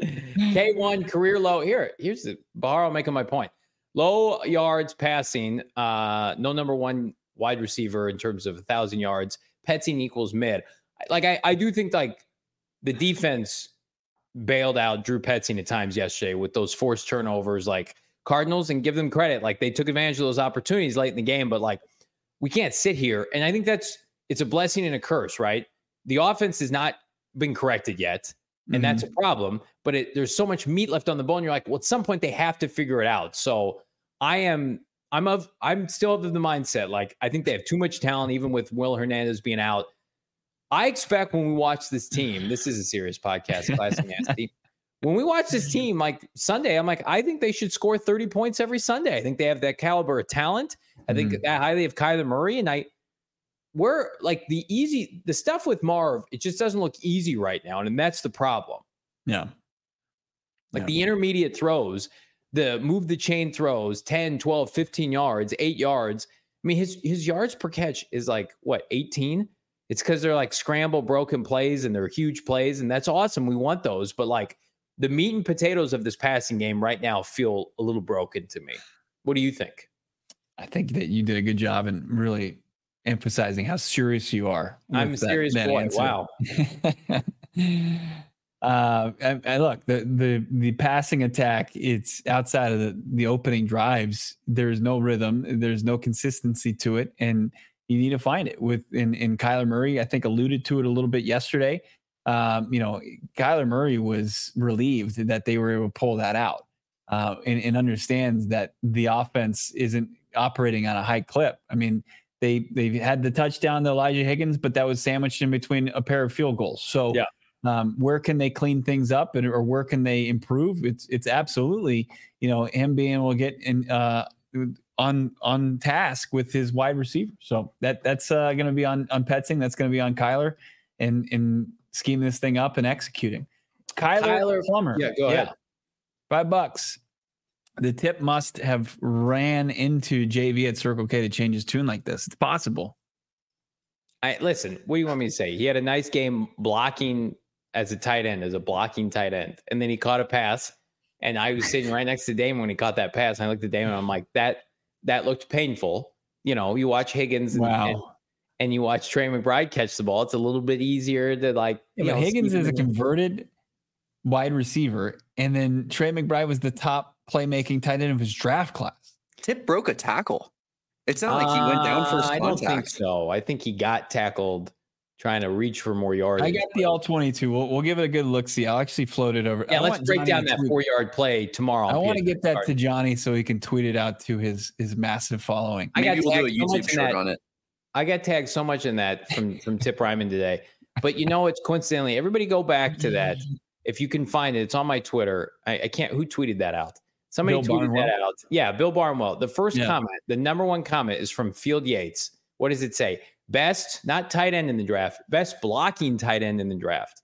Speaker 1: K one career low. Here, here's the Baharo making my point. Low yards passing, uh, no number one wide receiver in terms of a thousand yards. Petzing equals mid. Like I, I do think like the defense bailed out Drew Petzing at times yesterday with those forced turnovers, like Cardinals, and give them credit. Like they took advantage of those opportunities late in the game, but like we can't sit here. And I think that's it's a blessing and a curse, right? The offense has not been corrected yet, and that's a problem. But it, there's so much meat left on the bone. You're like, well, at some point they have to figure it out. So I am I'm of I'm still of the mindset. Like, I think they have too much talent, even with Will Hernandez being out. I expect when we watch this team, this is a serious podcast, Classic Nasty. When we watch this team, like Sunday, I'm like, I think they should score thirty points every Sunday. I think they have that caliber of talent. I think mm-hmm. that highly of Kyler Murray. And I, we're like the easy, the stuff with Marv, it just doesn't look easy right now. And that's the problem.
Speaker 2: Yeah.
Speaker 1: Like
Speaker 2: yeah.
Speaker 1: the intermediate throws, the move the chain throws, ten, twelve, fifteen yards, eight yards. I mean, his, his yards per catch is like, what, eighteen? It's because they're like scramble broken plays and they're huge plays. And that's awesome. We want those. But like the meat and potatoes of this passing game right now feel a little broken to me. What do you think?
Speaker 2: I think that you did a good job in really emphasizing how serious you are.
Speaker 1: I'm a serious that, that boy. Answer. Wow.
Speaker 2: uh, and, and look, the, the, the passing attack, it's outside of the, the opening drives. There's no rhythm. There's no consistency to it. And you need to find it with in, in Kyler Murray. I think alluded to it a little bit yesterday. Um, you know, Kyler Murray was relieved that they were able to pull that out uh, and, and understands that the offense isn't operating on a high clip. I mean, they they had the touchdown to Elijah Higgins, but that was sandwiched in between a pair of field goals. So
Speaker 1: yeah.
Speaker 2: um, where can they clean things up and or where can they improve? It's it's absolutely, you know, him being able to get in uh, on on task with his wide receiver. So that that's uh, going to be on on Petzing. That's going to be on Kyler and and scheming this thing up and executing. Kyler,
Speaker 1: Kyler
Speaker 2: Plummer.
Speaker 1: Yeah, go ahead.
Speaker 2: Yeah. Five bucks. The tip must have ran into J V at Circle K to change his tune like this. It's possible.
Speaker 1: I listen, what do you want me to say? He had a nice game blocking as a tight end, as a blocking tight end. And then he caught a pass. And I was sitting right next to Damon when he caught that pass. And I looked at Damon and I'm like, that that looked painful. You know, you watch Higgins and,
Speaker 2: wow.
Speaker 1: and, and you watch Trey McBride catch the ball. It's a little bit easier to like.
Speaker 2: Yeah,
Speaker 1: you
Speaker 2: but
Speaker 1: know,
Speaker 2: Higgins is a converted wide receiver. And then Trey McBride was the top playmaking tight end of his draft class.
Speaker 4: Tip broke a tackle. It's not like he went down for
Speaker 1: uh, I don't
Speaker 4: contact.
Speaker 1: think so. I think he got tackled trying to reach for more yards.
Speaker 2: I got the all twenty-two. We'll, we'll give it a good look. See, I'll actually float it over.
Speaker 1: Yeah,
Speaker 2: I
Speaker 1: let's break
Speaker 2: Johnny
Speaker 1: down that four yard play tomorrow.
Speaker 2: I want to get that
Speaker 1: card.
Speaker 2: to Johnny so he can tweet it out to his his massive following.
Speaker 1: I
Speaker 4: Maybe
Speaker 1: got
Speaker 4: we'll do a YouTube
Speaker 1: so
Speaker 4: short on it.
Speaker 1: I got tagged so much in that from from Tip Ryman today. But you know, it's coincidentally, everybody go back to that. If you can find it, it's on my Twitter. I, I can't. Who tweeted that out? Somebody
Speaker 2: Bill
Speaker 1: tweeted
Speaker 2: Barnwell.
Speaker 1: that out. Yeah, Bill Barnwell. The first
Speaker 2: Yeah.
Speaker 1: comment, the number one comment is from Field Yates. What does it say? Best, not tight end in the draft, best blocking tight end in the draft.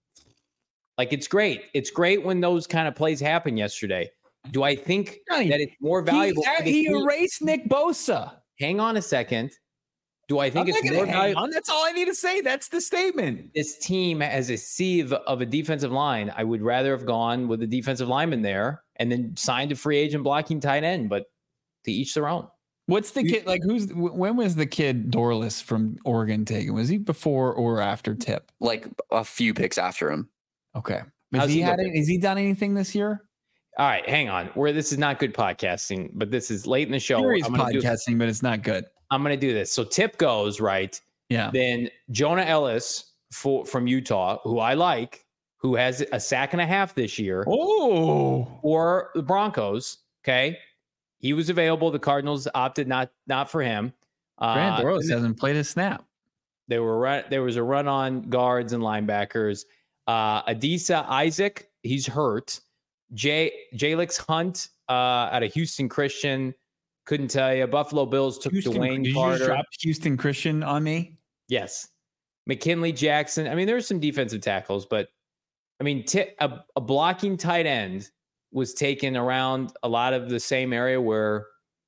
Speaker 1: Like, it's great. It's great when those kind of plays happen yesterday. Do I think
Speaker 2: Johnny,
Speaker 1: that it's more valuable?
Speaker 2: He, he erased Nick Bosa.
Speaker 1: Hang on a second. Do I think
Speaker 2: I'm
Speaker 1: it's
Speaker 2: not
Speaker 1: more
Speaker 2: gonna hang
Speaker 1: valuable?
Speaker 2: on. That's all I need to say. That's the statement.
Speaker 1: This team has a sieve of a defensive line. I would rather have gone with a defensive lineman there and then signed a free agent blocking tight end, but to each their own.
Speaker 2: What's the kid like? Who's when was the kid Dorless from Oregon taken? Was he before or after Tip?
Speaker 4: Like a few picks after him.
Speaker 2: Okay. Has
Speaker 1: How's
Speaker 2: he,
Speaker 1: he
Speaker 2: had
Speaker 1: looking?
Speaker 2: any, has he done anything this year?
Speaker 1: All right, hang on. Where this is not good podcasting, but this is late in the show.
Speaker 2: Serious
Speaker 1: I'm gonna do-
Speaker 2: podcasting, but it's not good.
Speaker 1: I'm going to do this. So Tip goes, right?
Speaker 2: Yeah.
Speaker 1: Then Jonah Ellis for, from Utah, who I like, who has a sack and a half this year,
Speaker 2: Oh,
Speaker 1: or the Broncos. Okay. He was available. The Cardinals opted not not for him.
Speaker 2: Grant
Speaker 1: Uh,
Speaker 2: Dorless hasn't played a snap.
Speaker 1: They were run, there was a run on guards and linebackers. Uh, Adisa Isaac, he's hurt. Jay Jalix Hunt uh, out of Houston Christian. Couldn't tell you. Buffalo Bills took
Speaker 2: Houston,
Speaker 1: Dwayne
Speaker 2: did you
Speaker 1: Carter.
Speaker 2: just drop Houston Christian on me?
Speaker 1: Yes. McKinley Jackson. I mean, there's some defensive tackles, but I mean, t- a, a blocking tight end was taken around a lot of the same area where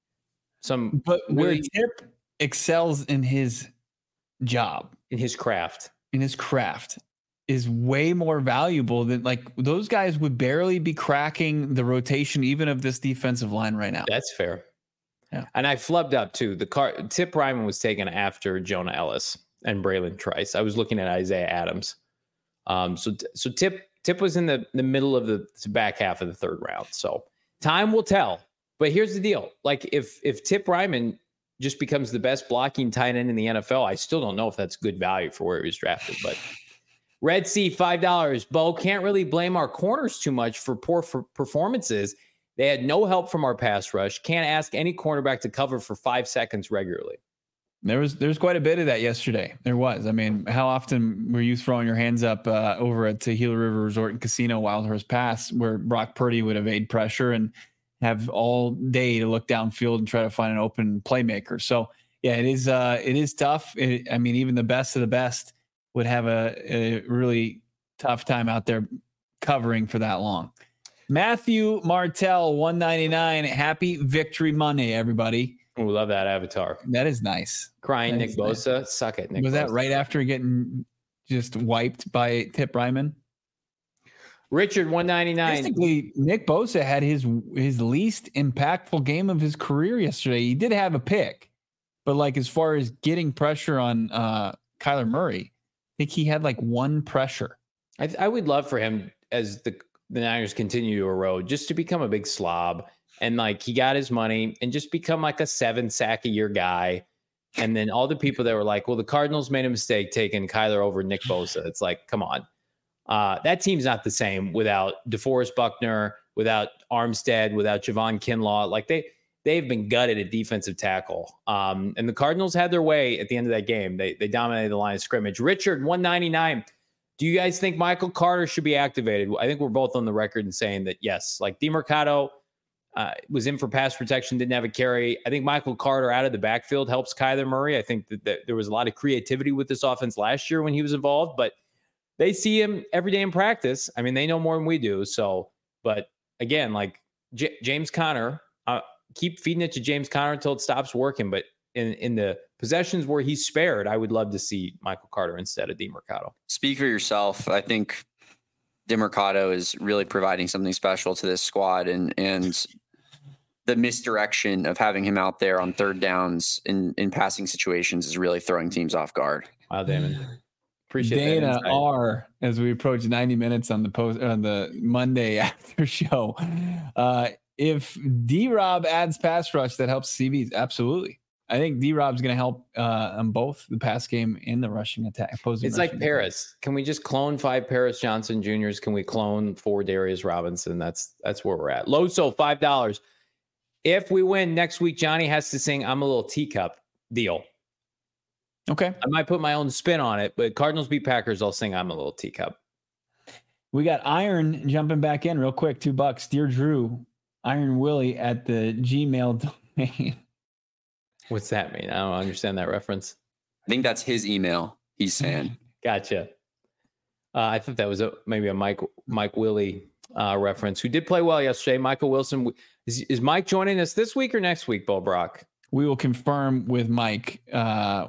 Speaker 1: some
Speaker 2: But where
Speaker 1: really
Speaker 2: Tip excels in his job,
Speaker 1: in his craft.
Speaker 2: in his craft, is way more valuable than like those guys would barely be cracking the rotation even of this defensive line right now.
Speaker 1: That's fair.
Speaker 2: Yeah.
Speaker 1: And I flubbed up too. The car Tip Ryman was taken after Jonah Ellis and Braylon Trice. I was looking at Isaiah Adams. Um, so so Tip Tip was in the, the middle of the back half of the third round. So time will tell. But here's the deal. Like if if Tip Ryman just becomes the best blocking tight end in the N F L, I still don't know if that's good value for where he was drafted. But Red Sea, five dollars. Bo, can't really blame our corners too much for poor for performances. They had no help from our pass rush. Can't ask any cornerback to cover for five seconds regularly.
Speaker 2: There was there's quite a bit of that yesterday. There was. I mean, how often were you throwing your hands up uh, over at the Gila River Resort and Casino Wild Horse Pass, where Brock Purdy would evade pressure and have all day to look downfield and try to find an open playmaker? So yeah, it is uh, it is tough. It, I mean, even the best of the best would have a, a really tough time out there covering for that long. Matthew Martell, one ninety-nine. Happy Victory Monday, everybody.
Speaker 1: We love that avatar.
Speaker 2: That is nice.
Speaker 1: Crying
Speaker 2: that
Speaker 1: Nick Bosa. Nice. Suck it, Nick
Speaker 2: Was
Speaker 1: Bosa.
Speaker 2: that right after getting just wiped by Tip Ryman?
Speaker 1: Richard, one ninety-nine.
Speaker 2: Basically, Nick Bosa had his his least impactful game of his career yesterday. He did have a pick, but like as far as getting pressure on uh, Kyler Murray, I think he had like one pressure.
Speaker 1: I, I would love for him as the the Niners continue to erode, just to become a big slob. And like, he got his money and just become like a seven sack a year guy. And then all the people that were like, well, the Cardinals made a mistake taking Kyler over Nick Bosa. It's like, come on. Uh, that team's not the same without DeForest Buckner, without Armstead, without Javon Kinlaw. Like they, they've been gutted at defensive tackle. Um, and the Cardinals had their way at the end of that game. They, they dominated the line of scrimmage. Richard, one ninety-nine. Do you guys think Michael Carter should be activated? I think we're both on the record in saying that, yes, like DeMercado uh, was in for pass protection, didn't have a carry. I think Michael Carter out of the backfield helps Kyler Murray. I think that, that there was a lot of creativity with this offense last year when he was involved, but they see him every day in practice. I mean, they know more than we do. So, but again, like J- James Conner, uh, keep feeding it to James Conner until it stops working. But in, in the possessions where he's spared, I would love to see Michael Carter instead of DeMercado.
Speaker 4: Speak for yourself. I think DeMercado is really providing something special to this squad, and and the misdirection of having him out there on third downs in, in passing situations is really throwing teams off guard.
Speaker 1: Wow, Damon. Appreciate
Speaker 2: Dana R, as we approach ninety minutes on the post on the Monday after show. Uh, if D-Rob adds pass rush, that helps C Bs. Absolutely. I think D-Rob's going to help uh, on both the pass game and the rushing attack. Opposing
Speaker 1: it's like Paris. Attack. Can we just clone five Paris Johnson Juniors? Can we clone four Darius Robinson? That's that's where we're at. Loso, five dollars. If we win next week, Johnny has to sing I'm a Little Teacup deal.
Speaker 2: Okay.
Speaker 1: I might put my own spin on it, but Cardinals beat Packers, I'll sing I'm a Little Teacup.
Speaker 2: We got Iron jumping back in real quick. Two bucks. Dear Drew, Iron Willie at the Gmail domain.
Speaker 1: What's that mean? I don't understand that reference.
Speaker 4: I think that's his email. He's saying.
Speaker 1: Gotcha. Uh, I thought that was a, maybe a Mike Mike Willie uh, reference, who did play well yesterday. Michael Wilson. Is, is Mike joining us this week or next week, Bo Brock?
Speaker 2: We will confirm with Mike. Uh,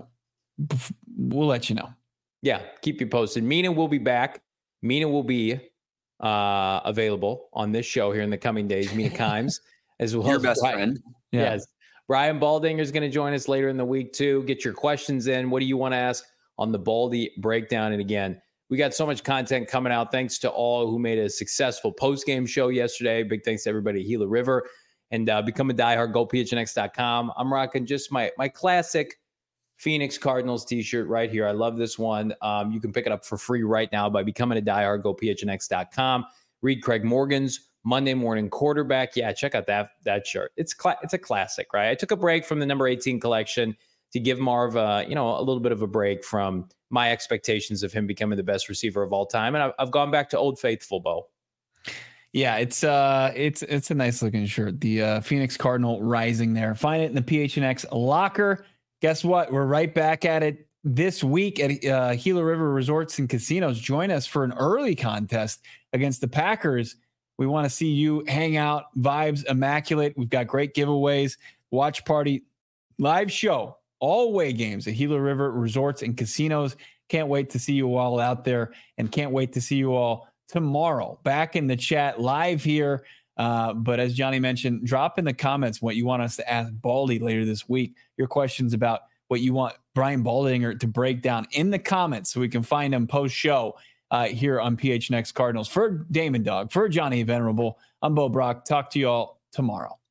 Speaker 2: we'll let you know.
Speaker 1: Yeah, keep you posted. Mina will be back. Mina will be uh, available on this show here in the coming days. Mina Kimes, as well
Speaker 4: Your
Speaker 1: as
Speaker 4: best
Speaker 1: Brian.
Speaker 4: friend.
Speaker 2: Yeah.
Speaker 1: Yes. Brian Baldinger is going to join us later in the week, too. Get your questions in. What do you want to ask on the Baldy breakdown? And again, we got so much content coming out. Thanks to all who made a successful post-game show yesterday. Big thanks to everybody at Gila River. And uh, become a diehard. Go P H N X dot com. I'm rocking just my my classic Phoenix Cardinals t-shirt right here. I love this one. Um, you can pick it up for free right now by becoming a diehard. Go P H N X dot com. Read Craig Morgan's Monday Morning Quarterback. Yeah, check out that that shirt. It's cla- it's a classic, right? I took a break from the number eighteen collection to give Marv, uh, you know, a little bit of a break from my expectations of him becoming the best receiver of all time, and I've, I've gone back to Old Faithful, Bo.
Speaker 2: Yeah, it's uh, it's it's a nice looking shirt. The uh, Phoenix Cardinal rising there. Find it in the P H N X locker. Guess what? We're right back at it this week at uh, Gila River Resorts and Casinos. Join us for an early contest against the Packers. We want to see you hang out. Vibes immaculate. We've got great giveaways. Watch party, live show, all away games at Gila River Resorts and Casinos. Can't wait to see you all out there, and can't wait to see you all tomorrow back in the chat live here. Uh, but as Johnny mentioned, drop in the comments what you want us to ask Baldy later this week. Your questions about what you want Brian Baldinger to break down in the comments so we can find him post show uh, here on P H N X Cardinals. For Damon Dog, for Johnny Venerable, I'm Bo Brock. Talk to you all tomorrow.